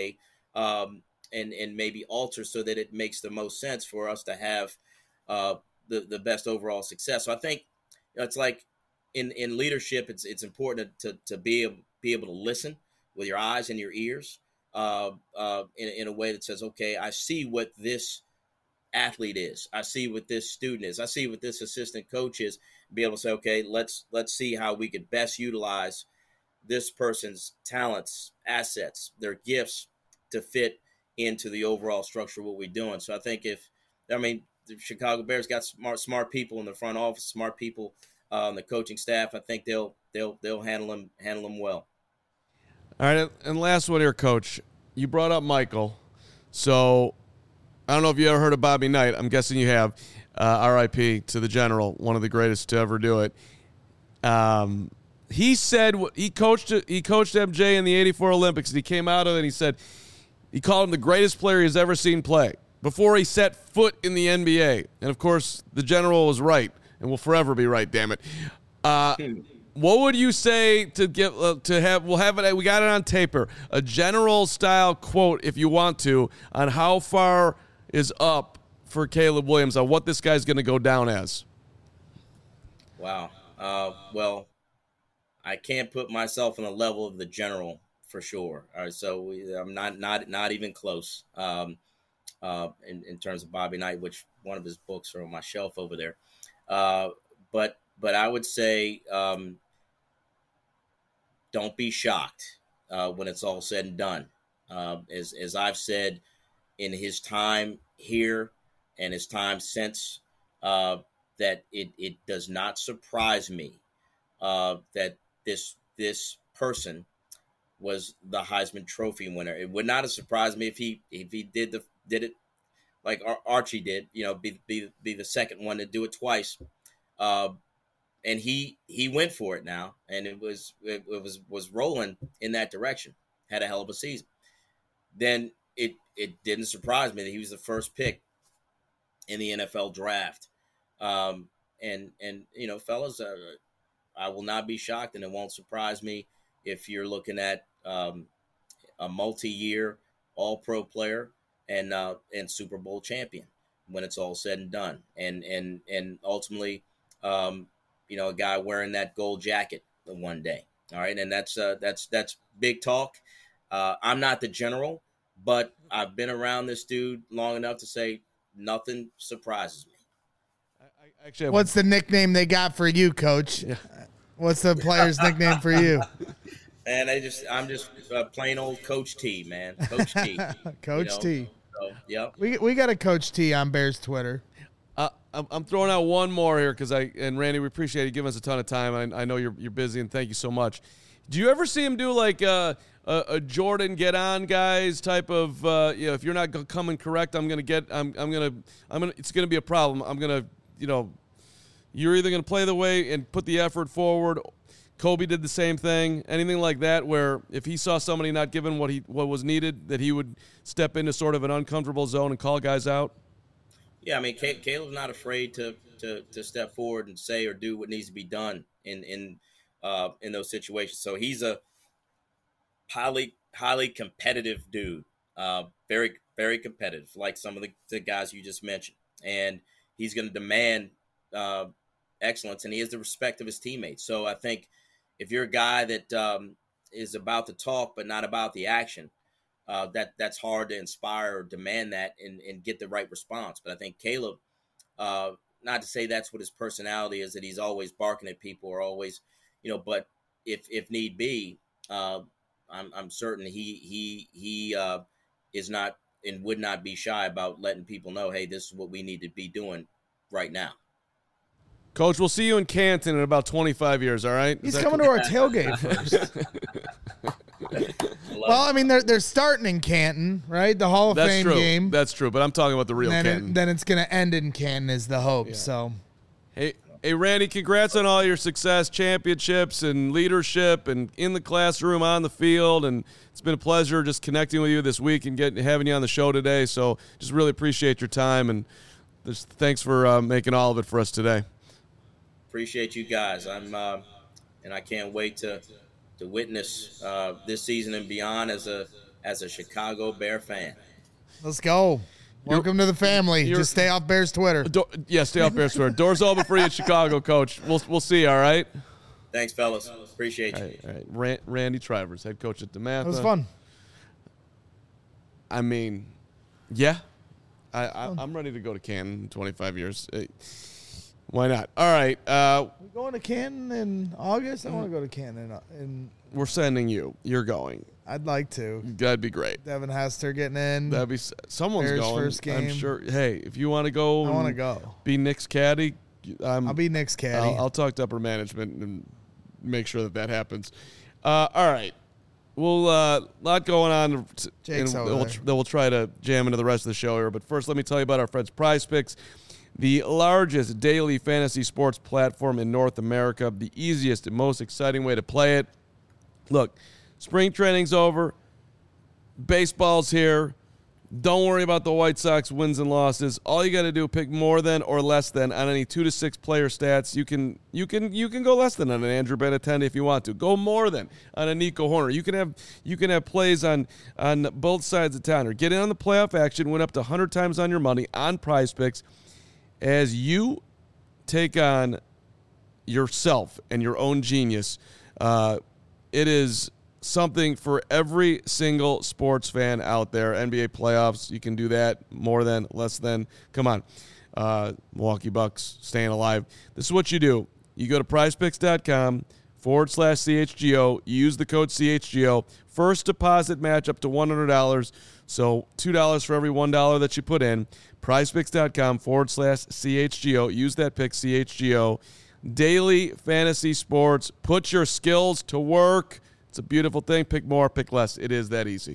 um, and and maybe alter so that it makes the most sense for us to have uh, the the best overall success. So I think it's like in in leadership, it's it's important to to be able, be able to listen with your eyes and your ears uh, uh, in in a way that says, okay, I see what this athlete is. I see what this student is. I see what this assistant coach is. Be able to say, okay, let's let's see how we could best utilize this person's talents, assets, their gifts to fit into the overall structure of what we're doing. So I think if, I mean, the Chicago Bears got smart smart people in the front office, smart people uh, on the coaching staff. I think they'll they'll they'll handle them handle them well. All right, and last one here, Coach. You brought up Michael, so I don't know if you ever heard of Bobby Knight. I'm guessing you have. Uh, R I P to the General, one of the greatest to ever do it. Um, he said he coached he coached M J in the eighty-four Olympics, and he came out of it and he said he called him the greatest player he's ever seen play before he set foot in the N B A. And, of course, the General was right and will forever be right, damn it. Uh, what would you say to get uh, to have we'll have it we got it on taper, a General style quote if you want to, on how far is up for Caleb Williams on what this guy's going to go down as? Wow. Uh, well, I can't put myself on the level of the General for sure. All right, so we, I'm not not not even close um, uh, in in terms of Bobby Knight, which one of his books are on my shelf over there. Uh, but but I would say um, don't be shocked uh, when it's all said and done. Uh, as as I've said, in his time here and his time since, uh, that it, it does not surprise me uh, that this this person was the Heisman Trophy winner. It would not have surprised me if he if he did the did it like Ar- Archie did, you know, be be be the second one to do it twice. Uh, and he he went for it now, and it was it, it was was rolling in that direction. Had a hell of a season. Then it it didn't surprise me that he was the first pick in the N F L draft. Um, and, and, you know, fellas, uh, I will not be shocked, and it won't surprise me if you're looking at um, a multi-year all-pro player and, uh, and Super Bowl champion when it's all said and done. And, and, and ultimately, um, you know, a guy wearing that gold jacket one day. All right. And that's, uh, that's, that's big talk. Uh, I'm not the General, but I've been around this dude long enough to say nothing surprises me. I, I actually have, What's the nickname they got for you, Coach? Yeah. What's the player's nickname for you? And I just, I'm just uh, plain old Coach T, man. Coach T. Coach you know? T. So, yep. We we got a Coach T on Bears Twitter. Uh, I'm, I'm throwing out one more here because I and Randy, we appreciate you giving us a ton of time. I, I know you're you're busy, and thank you so much. Do you ever see him do like uh, a, a Jordan get on guys type of uh, you know, if you're not go- coming correct, I'm gonna get I'm I'm gonna I'm gonna it's gonna be a problem. I'm gonna you know you're either gonna play the way and put the effort forward. Kobe did the same thing. Anything like that, where if he saw somebody not giving what he what was needed, that he would step into sort of an uncomfortable zone and call guys out. Yeah, I mean, Caleb's not afraid to, to to step forward and say or do what needs to be done in in uh, in those situations. So he's a highly highly competitive dude, uh, very very competitive, like some of the, the guys you just mentioned, and he's going to demand uh, excellence, and he has the respect of his teammates. So I think if you're a guy that um, is about the talk but not about the action, Uh, that that's hard to inspire or demand that and, and get the right response. But I think Caleb, uh, not to say that's what his personality is, that he's always barking at people or always, you know, but if if need be, uh, I'm I'm certain he he he uh, is not and would not be shy about letting people know, hey, this is what we need to be doing right now. Coach, we'll see you in Canton in about twenty-five years, all right? He's coming cool? to our tailgate first. Well, I mean, they're they're starting in Canton, right? The Hall of That's Fame true. game. That's true, but I'm talking about the real then Canton. It, then it's going to end in Canton is the hope. Yeah. So, hey, hey, Randy, congrats on all your success, championships, and leadership, and in the classroom, on the field. And it's been a pleasure just connecting with you this week and getting having you on the show today. So, just really appreciate your time, and just thanks for uh, making all of it for us today. Appreciate you guys. I'm, uh, and I can't wait to to witness uh, this season and beyond as a as a Chicago Bear fan. Let's go. Welcome to the family. you're- Just stay off Bears Twitter. Do- yeah, stay off Bears Twitter. Doors open for you in Chicago, Coach. We'll we'll see you. All right. Thanks, fellas. Appreciate you. All right. All right. Ran- Randy Trivers, head coach at DeMatha. It was fun. I mean, yeah, I, I I'm ready to go to Canton in twenty-five years. Uh, Why not? All right. Uh, We going to Canton in August? I want to go to Canton, and we're sending you. You're going. I'd like to. That'd be great. Devin Hester getting in. That'd be someone's Bears going. first I'm game. sure. Hey, if you want to go, I want to and go. Be Nick's caddy. I'm, I'll be Nick's caddy. I'll, I'll talk to upper management and make sure that that happens. Uh, all right. Well, a uh, lot going on. Jake's and over we'll, there. that we'll try to jam into the rest of the show here. But first, let me tell you about our friends Prize Picks, the largest daily fantasy sports platform in North America, the easiest and most exciting way to play it. Look, spring training's over. Baseball's here. Don't worry about the White Sox wins and losses. All you got to do pick more than or less than on any two to six player stats. You can you can you can go less than on an Andrew Benintendi if you want to. Go more than on a Nico Horner. You can have you can have plays on on both sides of town. Or get in on the playoff action. Win up to one hundred times on your money on Prize Picks as you take on yourself and your own genius. Uh, it is something for every single sports fan out there. N B A playoffs, you can do that more than, less than. Come on. Uh, Milwaukee Bucks staying alive. This is what you do. You go to prizepicks.com forward slash CHGO. You use the code C H G O. First deposit match up to one hundred dollars. So two dollars for every one dollar that you put in. prizepicks.com forward slash CHGO. Use that pick, C H G O. Daily fantasy sports. Put your skills to work. It's a beautiful thing. Pick more, pick less. It is that easy.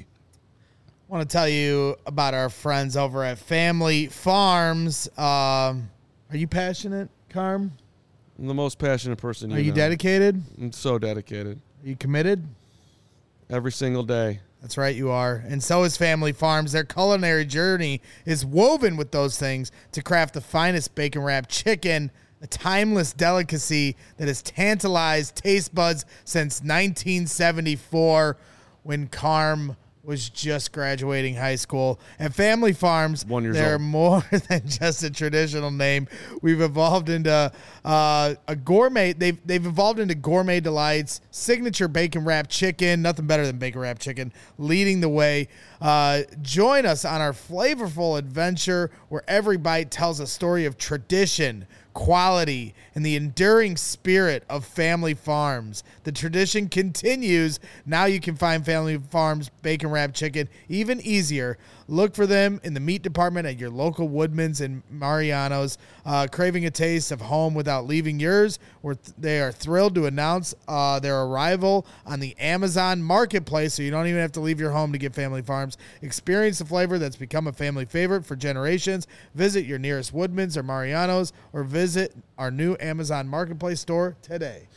I want to tell you about our friends over at Family Farms. Um, are you passionate, Carm? I'm the most passionate person you Are you know. dedicated? I'm so dedicated. Are you committed? Every single day. That's right, you are. And so is Family Farms. Their culinary journey is woven with those things to craft the finest bacon-wrapped chicken, a timeless delicacy that has tantalized taste buds since nineteen seventy-four when Carm was just graduating high school. At Family Farms, One years they're old. more than just a traditional name. We've evolved into uh, a gourmet. They've they've evolved into gourmet delights, signature bacon wrapped chicken. Nothing better than bacon wrapped chicken. Leading the way. Uh, join us on our flavorful adventure where every bite tells a story of tradition, quality, and the enduring spirit of Family Farms. The tradition continues. Now you can find Family Farms bacon wrapped chicken even easier. Look for them in the meat department at your local Woodman's and Mariano's. Uh, craving a taste of home without leaving yours? We're th- they are thrilled to announce uh, their arrival on the Amazon Marketplace, so you don't even have to leave your home to get Family Farms. Experience the flavor that's become a family favorite for generations. Visit your nearest Woodman's or Mariano's, or visit our new Amazon Marketplace store today.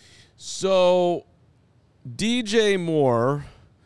So, D J Moore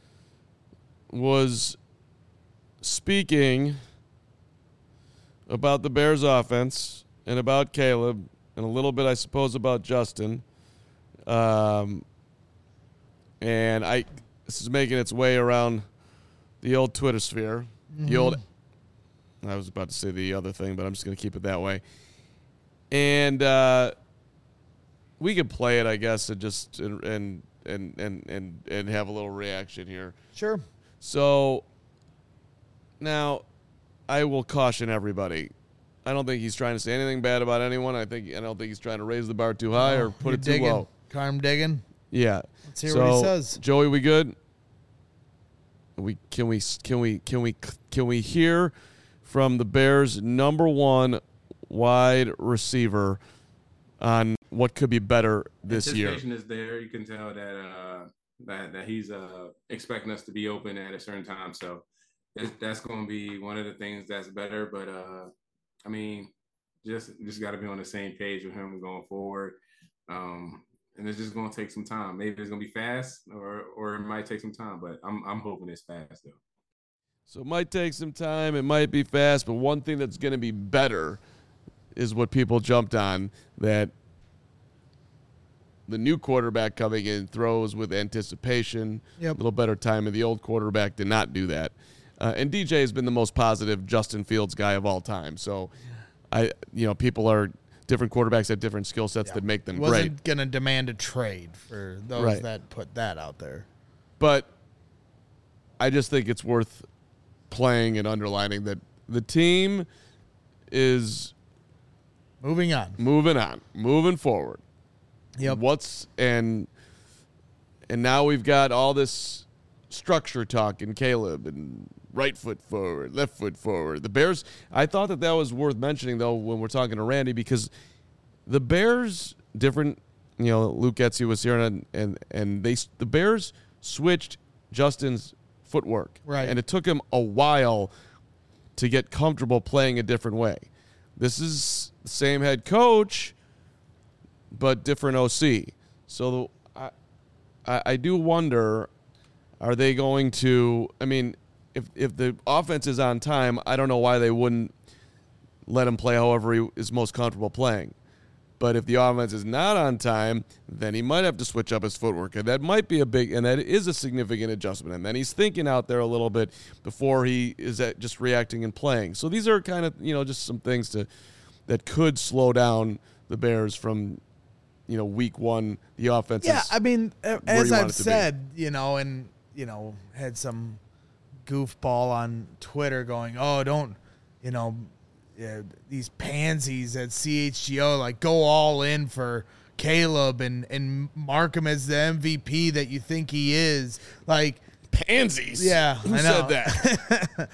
was speaking about the Bears offense and about Caleb and a little bit, I suppose, about Justin. Um, and I this is making its way around the old Twitter sphere. Mm-hmm. The old I was about to say the other thing, but I'm just going to keep it that way. And uh, we could play it, I guess, and just and and and and and, and have a little reaction here. Sure. So now I will caution everybody. I don't think he's trying to say anything bad about anyone. I think I don't think he's trying to raise the bar too high or put You're it too digging. low. Carm digging. Yeah. Let's hear so, what he says. Joey, we good? We can we can we can we can we hear from the Bears' number one wide receiver on what could be better this year? Anticipation is there. You can tell that uh, that that he's uh, expecting us to be open at a certain time. So it's, that's going to be one of the things that's better. But uh, I mean, just just got to be on the same page with him going forward. Um, and it's just going to take some time. Maybe it's going to be fast, or or it might take some time. But I'm I'm hoping it's fast though. So it might take some time. It might be fast. But one thing that's going to be better is what people jumped on, that the new quarterback coming in throws with anticipation, Yep. a little better time, and the old quarterback did not do that. Uh, and D J has been the most positive Justin Fields guy of all time. So, I, you know, people are different quarterbacks have different skill sets Yeah. that make them Wasn't great. going to demand a trade for those Right. that put that out there. But I just think it's worth playing and underlining that the team is Moving on. moving on, moving forward. Yep. What's and and now we've got all this structure talk in Caleb and right foot forward, left foot forward. The Bears, I thought that that was worth mentioning, though, when we're talking to Randy, because the Bears, different, you know, Luke Getsy was here, and and, and they the Bears switched Justin's footwork. Right. And it took him a while to get comfortable playing a different way. This is the same head coach, but different O C. So I, I, I do wonder, are they going to, I mean, if if the offense is on time, I don't know why they wouldn't let him play however he is most comfortable playing. But if the offense is not on time, then he might have to switch up his footwork. And that might be a big, and that is a significant adjustment. And then he's thinking out there a little bit before he is at just reacting and playing. So these are kind of, you know, just some things to that could slow down the Bears from, you know, week one, the offense. Yeah, is I mean, a- where as you want I've it to be. said, you know, and, you know, had some goofball on Twitter going, oh, don't, you know, yeah, these pansies at C H G O, like, go all in for Caleb and, and mark him as the M V P that you think he is. Like, pansies. yeah, Who I said know. that?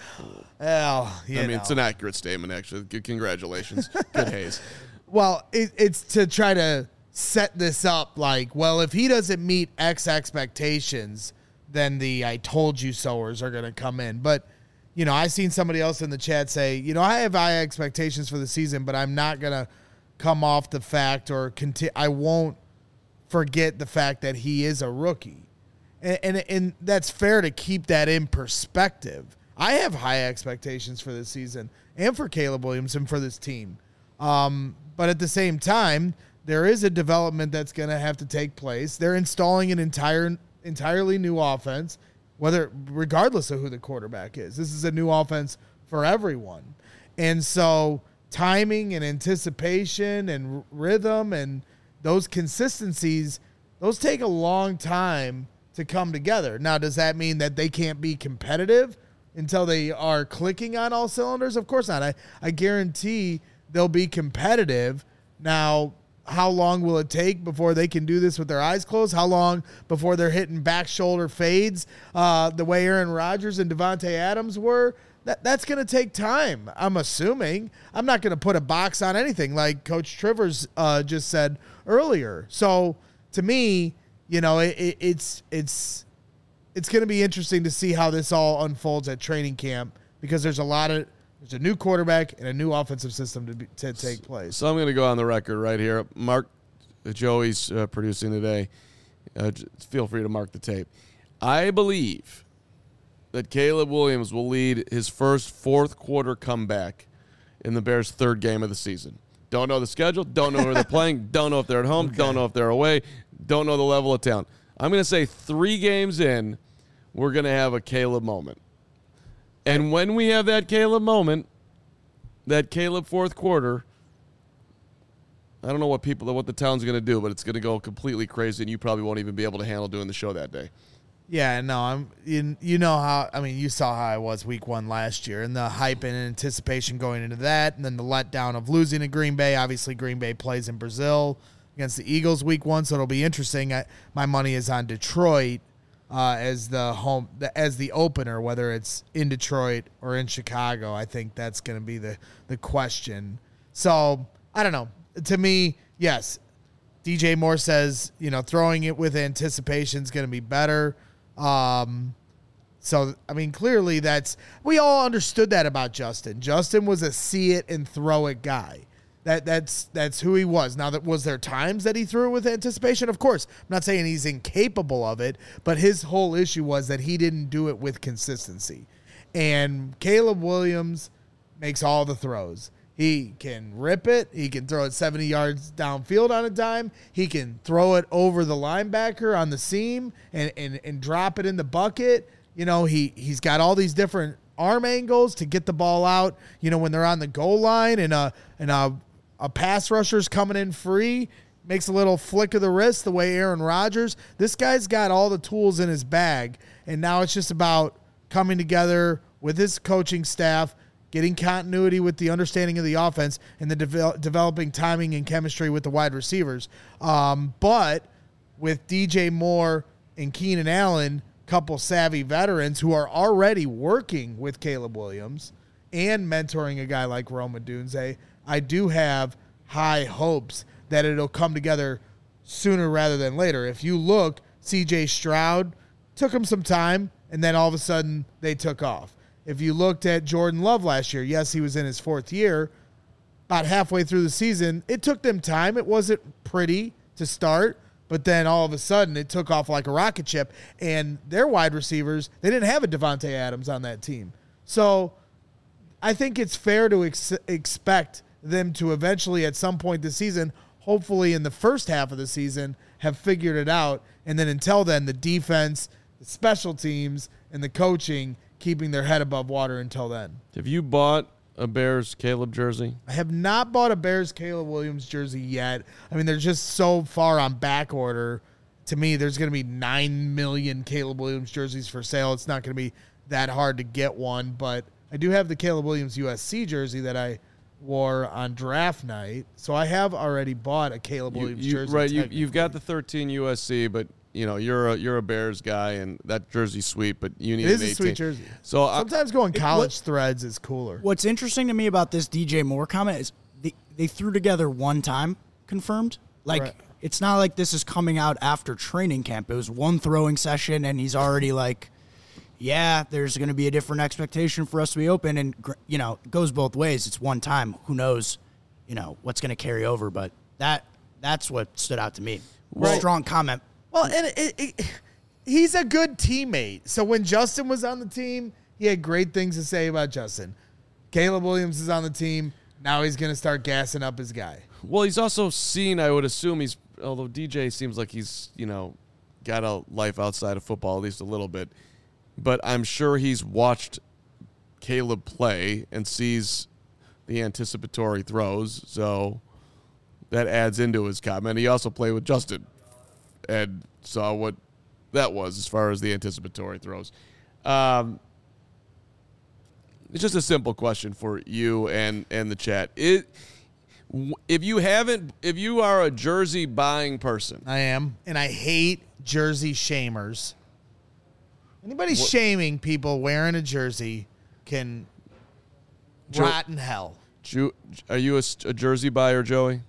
well, you I mean, know. it's an accurate statement, actually. Good, congratulations. Good Hayes. Well, it, it's to try to set this up like, well, if he doesn't meet X expectations, then the I told you soers are going to come in. But, you know, I seen somebody else in the chat say, you know, I have high expectations for the season, but I'm not going to come off the fact or conti- I won't forget the fact that he is a rookie. And, and, and that's fair to keep that in perspective. I have high expectations for this season and for Caleb Williams and for this team. Um, but at the same time, there is a development that's going to have to take place. They're installing an entire, entirely new offense, whether regardless of who the quarterback is. This is a new offense for everyone. And so timing and anticipation and r- rhythm and those consistencies, those take a long time to come together. Now, does that mean that they can't be competitive until they are clicking on all cylinders? Of course not. I, I guarantee they'll be competitive. Now, how long will it take before they can do this with their eyes closed? How long before they're hitting back shoulder fades uh, the way Aaron Rodgers and Devontae Adams were? That, that's going to take time, I'm assuming. I'm not going to put a box on anything like Coach Trivers uh, just said earlier. So, to me, you know, it, it, it's it's it's going to be interesting to see how this all unfolds at training camp because there's a lot of there's a new quarterback and a new offensive system to be, to take place. So I'm going to go on the record right here. Mark, uh, Joey's uh, producing today. Uh, j- feel free to mark the tape. I believe that Caleb Williams will lead his first fourth quarter comeback in the Bears' third game of the season. Don't know the schedule. Don't know where they're playing. Don't know if they're at home. Okay. Don't know if they're away. Don't know the level of talent. I'm going to say three games in, we're going to have a Caleb moment. And when we have that Caleb moment, that Caleb fourth quarter, I don't know what people, what the town's going to do, but it's going to go completely crazy, and you probably won't even be able to handle doing the show that day. Yeah, no, I'm. You, you know how I mean, you saw how I was week one last year, and the hype and anticipation going into that, and then the letdown of losing to Green Bay. Obviously, Green Bay plays in Brazil against the Eagles week one, so it'll be interesting. I, my money is on Detroit uh, as the home as the opener, whether it's in Detroit or in Chicago. I think that's going to be the the question. So I don't know. To me, yes, D J Moore says, you know, throwing it with anticipation is going to be better. Um, so, I mean, clearly that's, we all understood that about Justin. Justin was a see it and throw it guy. That that's, that's who he was. Now, that was there times that he threw it with anticipation? Of course, I'm not saying he's incapable of it, but his whole issue was that he didn't do it with consistency. And Caleb Williams makes all the throws. He can rip it. He can throw it seventy yards downfield on a dime. He can throw it over the linebacker on the seam and, and, and drop it in the bucket. You know, he, he's got all these different arm angles to get the ball out, you know, when they're on the goal line and a, and a, a pass rusher's coming in free, makes a little flick of the wrist the way Aaron Rodgers. This guy's got all the tools in his bag, and now it's just about coming together with his coaching staff, getting continuity with the understanding of the offense, and the devel- developing timing and chemistry with the wide receivers. Um, but with D J Moore and Keenan Allen, couple savvy veterans who are already working with Caleb Williams and mentoring a guy like Rome Odunze, I do have high hopes that it'll come together sooner rather than later. If you look, C J Stroud took him some time, and then all of a sudden they took off. If you looked at Jordan Love last year, yes, he was in his fourth year. About halfway through the season, it took them time. It wasn't pretty to start, but then all of a sudden it took off like a rocket ship. And their wide receivers, they didn't have a Devontae Adams on that team. So I think it's fair to ex- expect them to eventually at some point this season, hopefully in the first half of the season, have figured it out. And then until then, the defense, the special teams, and the coaching keeping their head above water until then. Have you bought a Bears Caleb jersey? I have not bought a Bears Caleb Williams jersey yet. I mean, they're just so far on back order. To me, there's going to be nine million Caleb Williams jerseys for sale. It's not going to be that hard to get one, but I do have the Caleb Williams U S C jersey that I wore on draft night. So I have already bought a Caleb You- Williams you- jersey. Right, you, you've technically. got the thirteen U S C, but you know you're a you're a Bears guy, and that jersey's sweet. But you need It is an a eighteen. sweet jersey. So I, Sometimes going It- college what- threads is cooler. What's interesting to me about this D J Moore comment is they, they threw together one time confirmed. Like, Right. it's not like this is coming out after training camp. It was one throwing session, and he's already like, yeah, there's going to be a different expectation for us to be open. And, gr- you know, it goes both ways. It's one time. Who knows, you know, what's going to carry over. But that that's what stood out to me. Right. Strong comment. Well, and it, it, he's a good teammate. So when Justin was on the team, he had great things to say about Justin. Caleb Williams is on the team. Now he's going to start gassing up his guy. well, he's also seen. I would assume he's. Although D J seems like he's you know got a life outside of football at least a little bit, but I'm sure he's watched Caleb play and sees the anticipatory throws. So that adds into his comment. He also played with Justin and saw what that was as far as the anticipatory throws. Um, it's just a simple question for you and, and the chat. It, if you haven't, if you are a jersey buying person, I am. And I hate jersey shamers. Anybody shaming people wearing a jersey can Jer- rot in hell. Ju- are you a, a jersey buyer, Joey?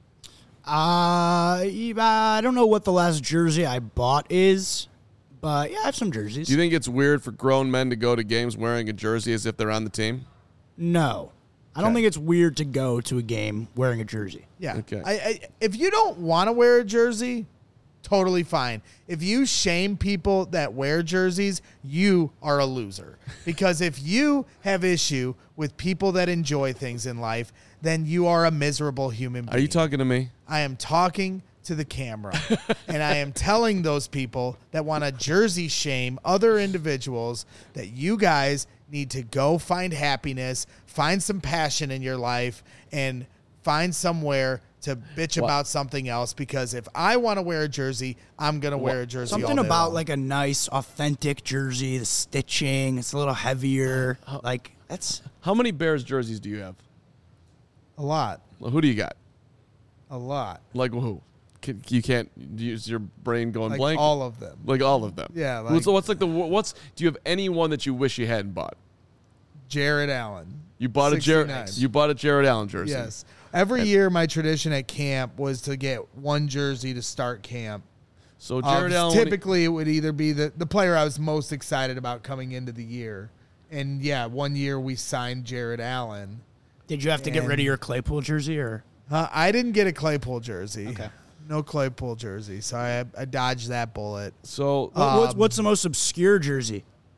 Uh, I don't know what the last jersey I bought is, but yeah, I have some jerseys. Do you think it's weird for grown men to go to games wearing a jersey as if they're on the team? No. I don't Okay. think it's weird to go to a game wearing a jersey. Yeah. Okay. I, I, if you don't want to wear a jersey, totally fine. If you shame people that wear jerseys, you are a loser. Because if you have issue with people that enjoy things in life, then you are a miserable human being. Are you talking to me? I am talking to the camera, and I am telling those people that want to jersey shame other individuals that you guys need to go find happiness, find some passion in your life, and find somewhere to bitch about something else. Because if I want to wear a jersey, I'm going to wear a jersey all Something day about long. like a nice, authentic jersey, the stitching, it's a little heavier. Like, that's How many Bears jerseys do you have? a lot. Well, who do you got? A lot. Like who? Can, you can't use your brain going Like blank. all of them. Like all of them. Yeah, What's- like- what's like the what's? Do you have any one that you wish you hadn't bought? Jared Allen. You bought a Jared. sixty-nine. You bought a Jared Allen jersey. Yes. Every year, my tradition at camp was to get one jersey to start camp. So Uh, Jared Allen. when he- typically, it would either be the, the player I was most excited about coming into the year. And, yeah, one year we signed Jared Allen. Did you have to get rid of And- your Claypool jersey or? Uh, I didn't get a Claypool jersey. Okay. No Claypool jersey. So I, I dodged that bullet. so What- what's, Um, what's the most obscure jersey?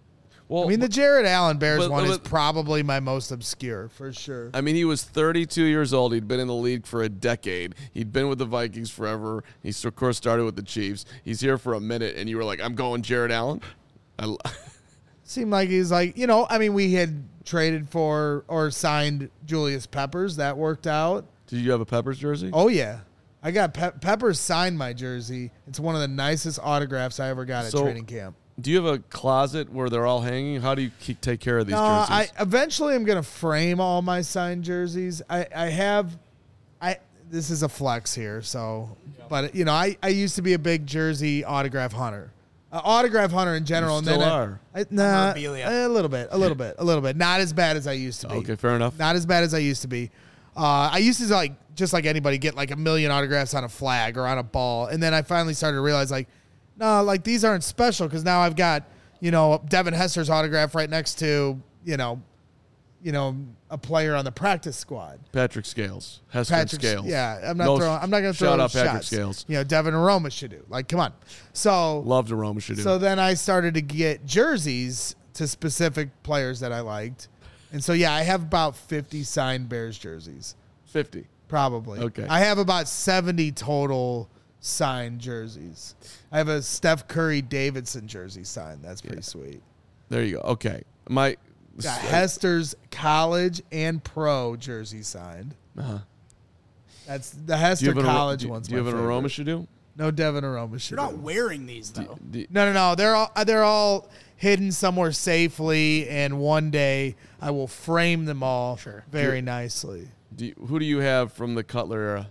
Well, I mean, the Jared Allen Bears but- one is but- probably my most obscure, for sure. I mean, he was thirty-two years old. He'd been in the league for a decade. He'd been with the Vikings forever. He's, of course, started with the Chiefs. He's here for a minute, and you were like, I'm going Jared Allen? I l- Seemed like he's like, you know, I mean, we had traded for or signed Julius Peppers. That worked out. Did you have a Peppers jersey? Oh, yeah. I got Pe- Peppers signed my jersey. It's one of the nicest autographs I ever got at So- training camp. Do you have a closet where they're all hanging? How do you keep, take care of these No, jerseys? I eventually I'm gonna frame all my signed jerseys. I, I have, I this is a flex here, so, but you know, I, I used to be a big jersey autograph hunter, uh, autograph hunter in general. You and still then I- are. I, nah, Memorabilia. a little bit, a little bit, a little bit. Not as bad as I used to be. Okay, fair enough. Not as bad as I used to be. Uh, I used to like just like anybody get like a million autographs on a flag or on a ball, and then I finally started to realize like, no, like these aren't special because now I've got, you know, Devin Hester's autograph right next to, you know, you know, a player on the practice squad. Patrick Scales. Hester and Patrick Scales. Yeah, I'm not No, throwing. I'm not going to throw shout out Patrick shots. Scales. You know, Devin Aroma should do. Like, come on. So Loved Aroma should do. so then I started to get jerseys to specific players that I liked, and so yeah, I have about fifty signed Bears jerseys. fifty. Probably. Okay. I have about seventy total signed jerseys. I have a Steph Curry Davidson jersey signed. That's pretty sweet. There you go. Okay. My Got Hester's college and pro jersey signed. Uh-huh. That's the Do you Hester have an, college do, one's do you my have an favorite. Aroma should do? No Devin Aroma should You're not do. wearing these though. Do- No, no, no. They're all they're all hidden somewhere safely, and one day I will frame them all Sure. very nicely. do you- who do you have from the Cutler era?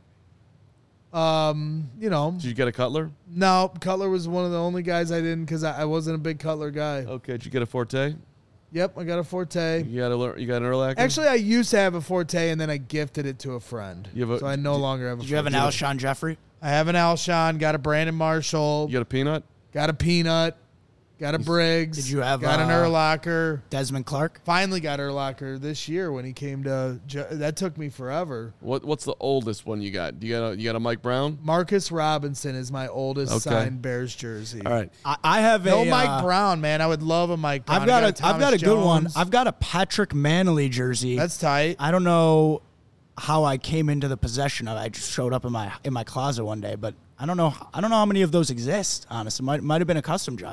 Um, you know, Did you get a Cutler? no, Cutler was one of the only guys I didn't because I, I wasn't a big Cutler guy. Okay. Did you get a Forte? Yep, I got a Forte. You got a you got an Urlacher? Actually, I used to have a Forte, and then I gifted it to a friend. You have a- so I no do- longer have a Did you have an Forte. Alshon Jeffrey? I have an Alshon, got a Brandon Marshall, you got a Peanut? got a Peanut, got a Briggs. Did you have, got an uh, Urlacher. Desmond Clark? Finally got Urlacher this year when he came to. Ju- That took me forever. What what's the oldest one you got? Do you got a you got a Mike Brown? Marcus Robinson is my oldest Okay. signed Bears jersey. All right. I, I have No a Mike uh, Brown, man. I would love a Mike Brown. I've got I a I've Thomas got a good one. Jones. I've got a Patrick Manley jersey. That's tight. I don't know how I came into the possession of it. I just showed up in my in my closet one day, but I don't know I don't know how many of those exist, honestly. Might might have been a custom job.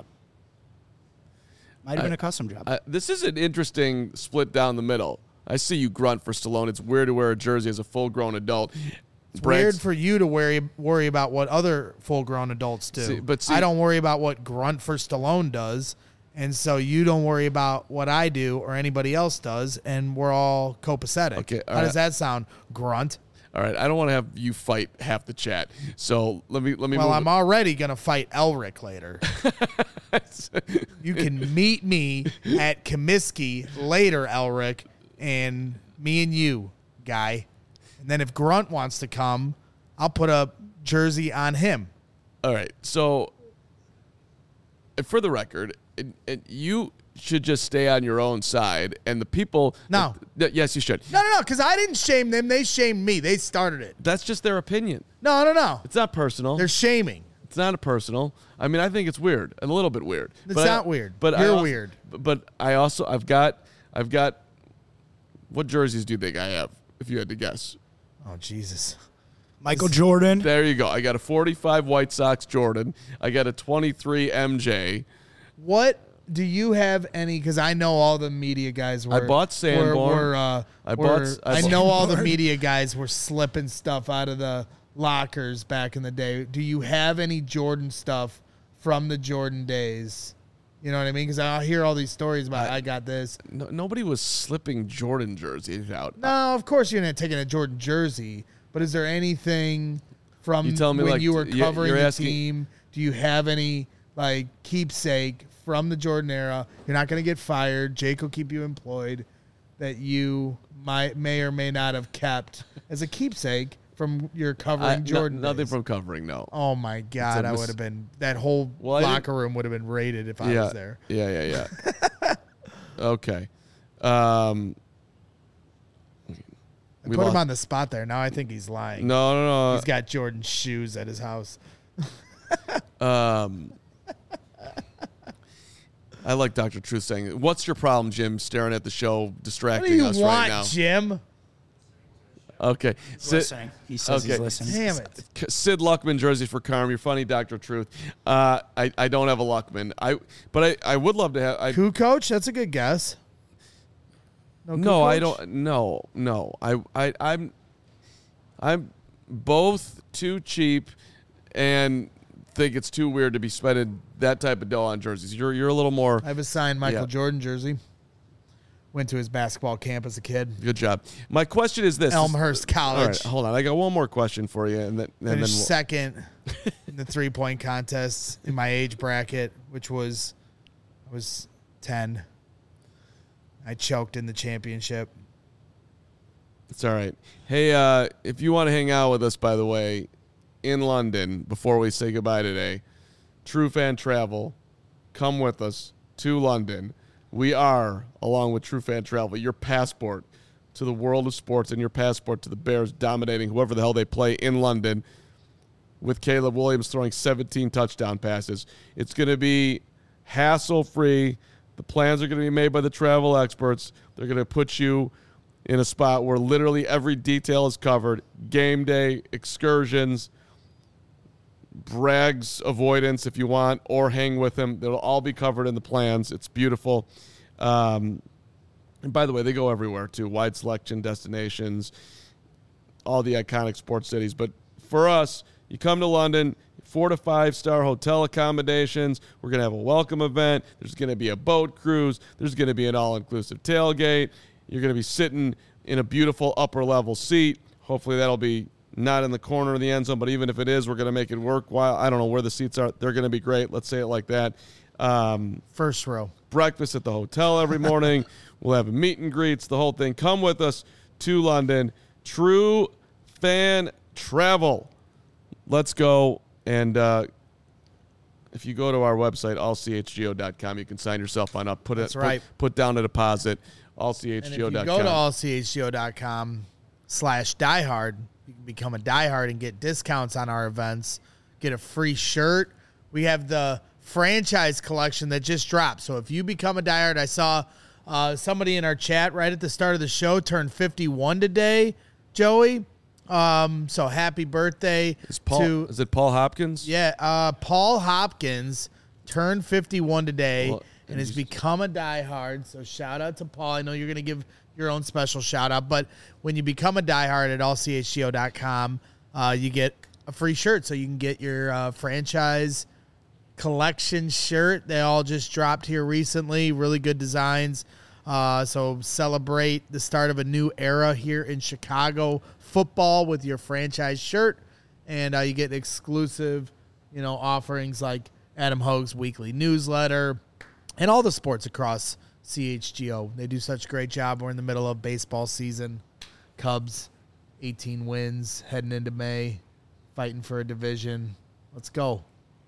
Might have I- been a custom job. Uh, this is an interesting split down the middle. I see you grunt for Stallone. It's weird to wear a jersey as a full-grown adult. It's weird for you to worry worry about what other full grown adults do. See, but see- I don't worry about what Grunt for Stallone does, and so you don't worry about what I do or anybody else does, and we're all copacetic. Okay, all How does right. that sound, Grunt? All right, I don't want to have you fight half the chat. So let me let me. Well, move I'm already gonna fight Elric later. You can meet me at Comiskey later, Elric, and me and you, guy. And then if Grunt wants to come, I'll put a jersey on him. All right. So, and for the record, it, it, you should just stay on your own side, and the people. No. Th- yes, you should. No, no, no, because I didn't shame them. They shamed me. They started it. That's just their opinion. No, no, no. It's not personal. They're shaming. It's not a personal. I mean, I think it's weird, a little bit weird. It's But I- not weird. But I You're also- weird. But I also I've got I've got. What jerseys do you think I have? If you had to guess. Oh, Jesus. Michael Jordan. There you go. I got a forty-five White Sox Jordan. I got a twenty-three M J. What do you have any? Because I know all the media guys were. I bought Sanborn. Were, were, uh, I were- bought- I I bought- know all the media guys were slipping stuff out of the lockers back in the day. Do you have any Jordan stuff from the Jordan days? You know what I mean? Because I hear all these stories about I, got this. No, nobody was slipping Jordan jerseys out. No, of course you're not taking a Jordan jersey. But is there anything from You tell me, when like, you were you're- covering you're the asking- team? Do you have any like keepsake from the Jordan era? You're not going to get fired. Jake will keep you employed. That you might may or may not have kept as a keepsake from your covering I- no- Jordan. nothing days. from covering. No. Oh my God! a I mis- would have been that whole Well, I didn't- locker room would have been raided if I yeah, was there. yeah, yeah, yeah. Okay. Um, I we put him lost- on the spot there. Now I think he's lying. No, no, He's got Jordan shoes at his house. no. Um, I like Doctor Truth saying, "What's your problem, Jim?" Staring at the show, What distracting do you us want, right now. Jim? Okay, He's Sid, listening. He says okay. he's listening. Damn it. Sid Luckman jersey for Carm. You're funny, Doctor Truth. Uh, I I don't have a Luckman. I but I, I would love to have. I, Coup coach? That's a good guess. No, coup no, I coach? don't. No, no. I I I'm I'm both too cheap and think it's too weird to be spending that type of dough on jerseys. You're you're a little more. I have a signed Michael Yeah. Jordan jersey. Went to his basketball camp as a kid. Good job. My question is this: Elmhurst All College. right, hold on. I got one more question for you, and then and then Finished we'll, second in the three point contest in my age bracket, which was I was ten. I choked in the championship. it's all right. Hey, uh, if you want to hang out with us, by the way, in London before we say goodbye today, True Fan Travel, come with us to London. We are, along with True Fan Travel, your passport to the world of sports and your passport to the Bears dominating whoever the hell they play in London, with Caleb Williams throwing seventeen touchdown passes. It's going to be hassle-free. The plans are going to be made by the travel experts. They're going to put you in a spot where literally every detail is covered. Game day, excursions, Bragg's avoidance if you want, or hang with him. It'll all be covered in the plans. It's beautiful. Um, and by the way, they go everywhere too. Wide selection, destinations, all the iconic sports cities. But for us, you come to London, four to five star hotel accommodations. We're going to have a welcome event. There's going to be a boat cruise. There's going to be an all-inclusive tailgate. You're going to be sitting in a beautiful upper level seat. Hopefully that'll be not in the corner of the end zone, but even if it is, we're going to make it work. While I don't know where the seats are. They're going to be great. Let's say it like that. Um, First row. breakfast at the hotel every morning. We'll have meet and greets, the whole thing. Come with us to London. True Fan Travel. Let's go. And uh, if you go to our website, all c h g o dot com, you can sign yourself on up. Put, That's it, right. put, put down a deposit, all c h And g o if you dot go to com. all c h g o dot com slash diehard, you can become a diehard and get discounts on our events, get a free shirt. We have the franchise collection that just dropped. So if you become a diehard, I saw uh, somebody in our chat right at the start of the show turned fifty-one today, Joey. Um, so happy birthday Is, Paul, to is it Paul Hopkins? yeah, uh, Paul Hopkins turned fifty-one today Well, and has he's- become a diehard. So shout out to Paul. I know you're going to give your own special shout out, but when you become a diehard at all c h g o dot com, uh, you get a free shirt. So you can get your uh, franchise collection shirt. They all just dropped here recently. Really good designs. Uh, so celebrate the start of a new era here in Chicago football with your franchise shirt, and uh, you get exclusive, you know, offerings like Adam Hogue's weekly newsletter and all the sports across C H G O. They do such a great job. We're in the middle of baseball season. Cubs, eighteen wins, heading into May, fighting for a division. Let's go.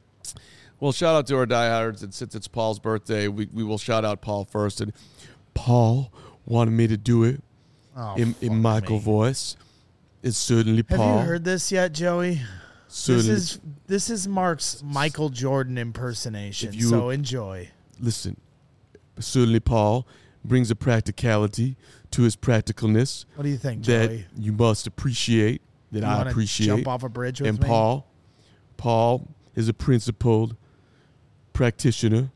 Well, shout out to our diehards, and since it's Paul's birthday, we, we will shout out Paul first. And Paul wanted me to do it Oh, in, fuck in Michael me. voice. It's certainly Have Paul. you heard this yet, Joey? Certainly. This is this is Mark's Michael Jordan impersonation. If you- So enjoy. Listen, certainly Paul brings a practicality to his practicalness What do you think, that Joey? you must appreciate, that You I wanna appreciate. jump off a bridge with and me? Paul, Paul is a principled practitioner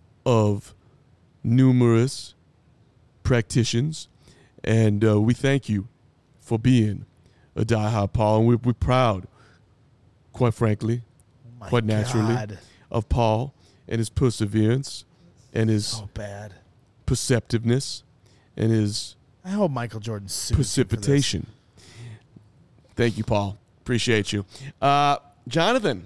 of numerous practitioners, and uh, we thank you for being a diehard, Paul, and we're, we're proud, quite frankly, Oh my quite naturally, God. of Paul and his perseverance and his So bad. perceptiveness and his I hope Michael Jordan sues you for this. precipitation. Thank you, Paul. Appreciate you. Uh, Jonathan,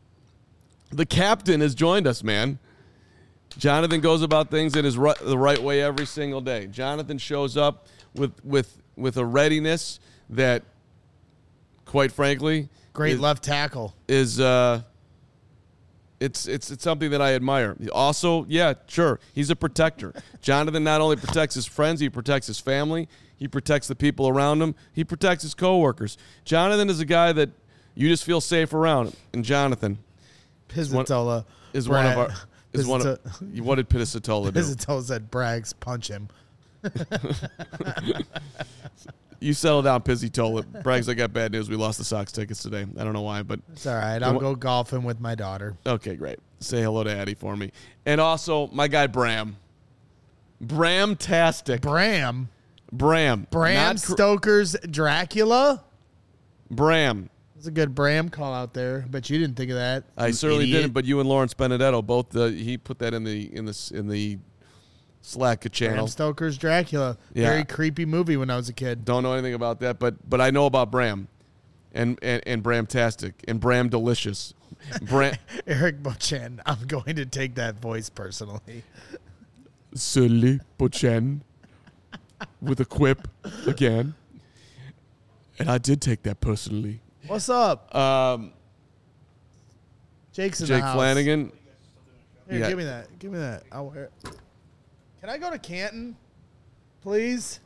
the captain, has joined us, man. Jonathan goes about things in his ri- the right way every single day. Jonathan shows up with with with a readiness that, quite frankly, Great is, left tackle. is uh, it's it's it's something that I admire. Also, yeah, sure, he's a protector. Jonathan not only protects his friends, he protects his family. He protects the people around him. He protects his coworkers. Jonathan is a guy that you just feel safe around. And Jonathan Pizzola is one of our- is one of, what did Pizzatola do? Pizzatola said, Braggs, punch him. You settle down, Pizzatola. Braggs, I got bad news. We lost the Sox tickets today. I don't know why, but it's all right. I'll go golfing with my daughter. Okay, great. Say hello to Addie for me. And also, my guy Bram. Bram-tastic. Bram? Bram. Bram Not cr- Stoker's Dracula? Bram. That's a good Bram call out there, but you didn't think of that. I certainly idiot. didn't, but you and Lawrence Benedetto both. Uh, he put that in the in the in the Slack channel. Bram Stoker's Dracula. Yeah. Very creepy movie when I was a kid. Don't know anything about that, but but I know about Bram, and and, and Bram-tastic and Bram Delicious. Bram Eric Bochen. I'm going to take that voice personally. Silly Bochen with a quip again, and I did take that personally. What's up? Um, Jake's in Jake the house. Flanagan. Here, Yeah. give me that. Give me that. I'll wear it. Can I go to Canton, please?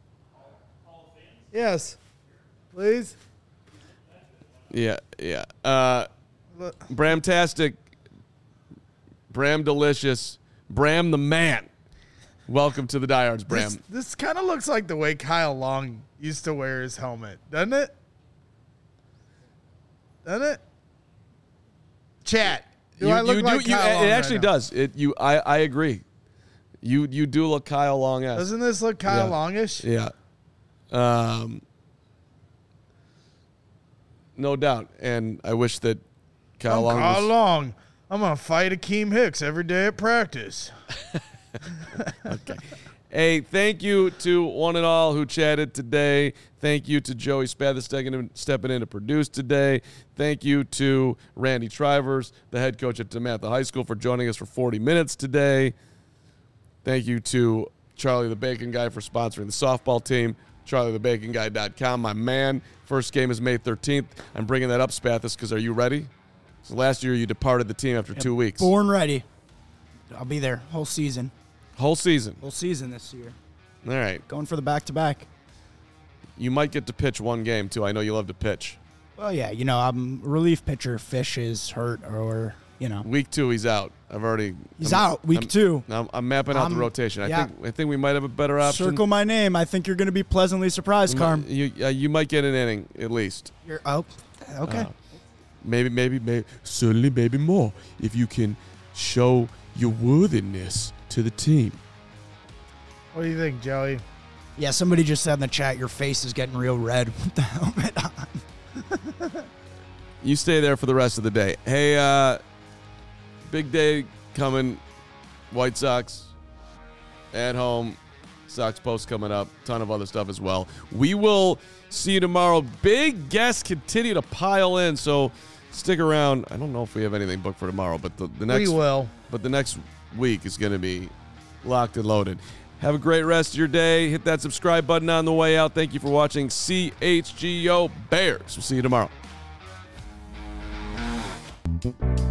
Yes, please. Yeah, yeah. Uh, Look. Bram-tastic, Bram Delicious, Bram the man. Welcome to the Diehards, Bram. This, this kind of looks like the way Kyle Long used to wear his helmet, doesn't it? Doesn't it? Chat. Do you, I look you like do, you, Kyle it Long actually right now? does. It you I, I agree. You you do look Kyle Long-esque. Doesn't this look Kyle Yeah. Longish? Yeah. Um, no doubt. And I wish that Kyle I'm Long Kyle was, Long. I'm gonna fight Akeem Hicks every day at practice. Okay. Hey, thank you to one and all who chatted today. Thank you to Joey Spath stepping stepping in to produce today. Thank you to Randy Trivers, the head coach at DeMatha High School, for joining us for forty minutes today. Thank you to Charlie the Bacon Guy for sponsoring the softball team. Charlie the Bacon Guy dot com, my man. First game is May thirteenth. I'm bringing that up, Spathis, because are you ready? So last year you departed the team after two weeks. Born ready. I'll be there whole season. Whole season. Whole season this year. All right. Going for the back-to-back. You might get to pitch one game, too. I know you love to pitch. Well, yeah, you know, I'm a relief pitcher. Fish is hurt or, you know. Week two, he's out. I've already. He's I'm, out week I'm, two. I'm, I'm mapping out the I'm- rotation. I yeah. think I think we might have a better option. Circle my name. I think you're going to be pleasantly surprised, You Carm. might- You, uh, you might get an inning at least. You're, oh, okay. Uh, maybe, maybe, maybe, certainly, maybe more if you can show your worthiness to the team. What do you think, Joey? Yeah, somebody just said in the chat, your face is getting real red with the helmet on. You stay there for the rest of the day. Hey, uh, big day coming. White Sox at home. Sox Post coming up. Ton of other stuff as well. We will see you tomorrow. Big guests continue to pile in, so stick around. I don't know if we have anything booked for tomorrow, but the, the next We will. But the next week is going to be locked and loaded. Have a great rest of your day. Hit that subscribe button on the way out. Thank you for watching C H G O Bears. We'll see you tomorrow.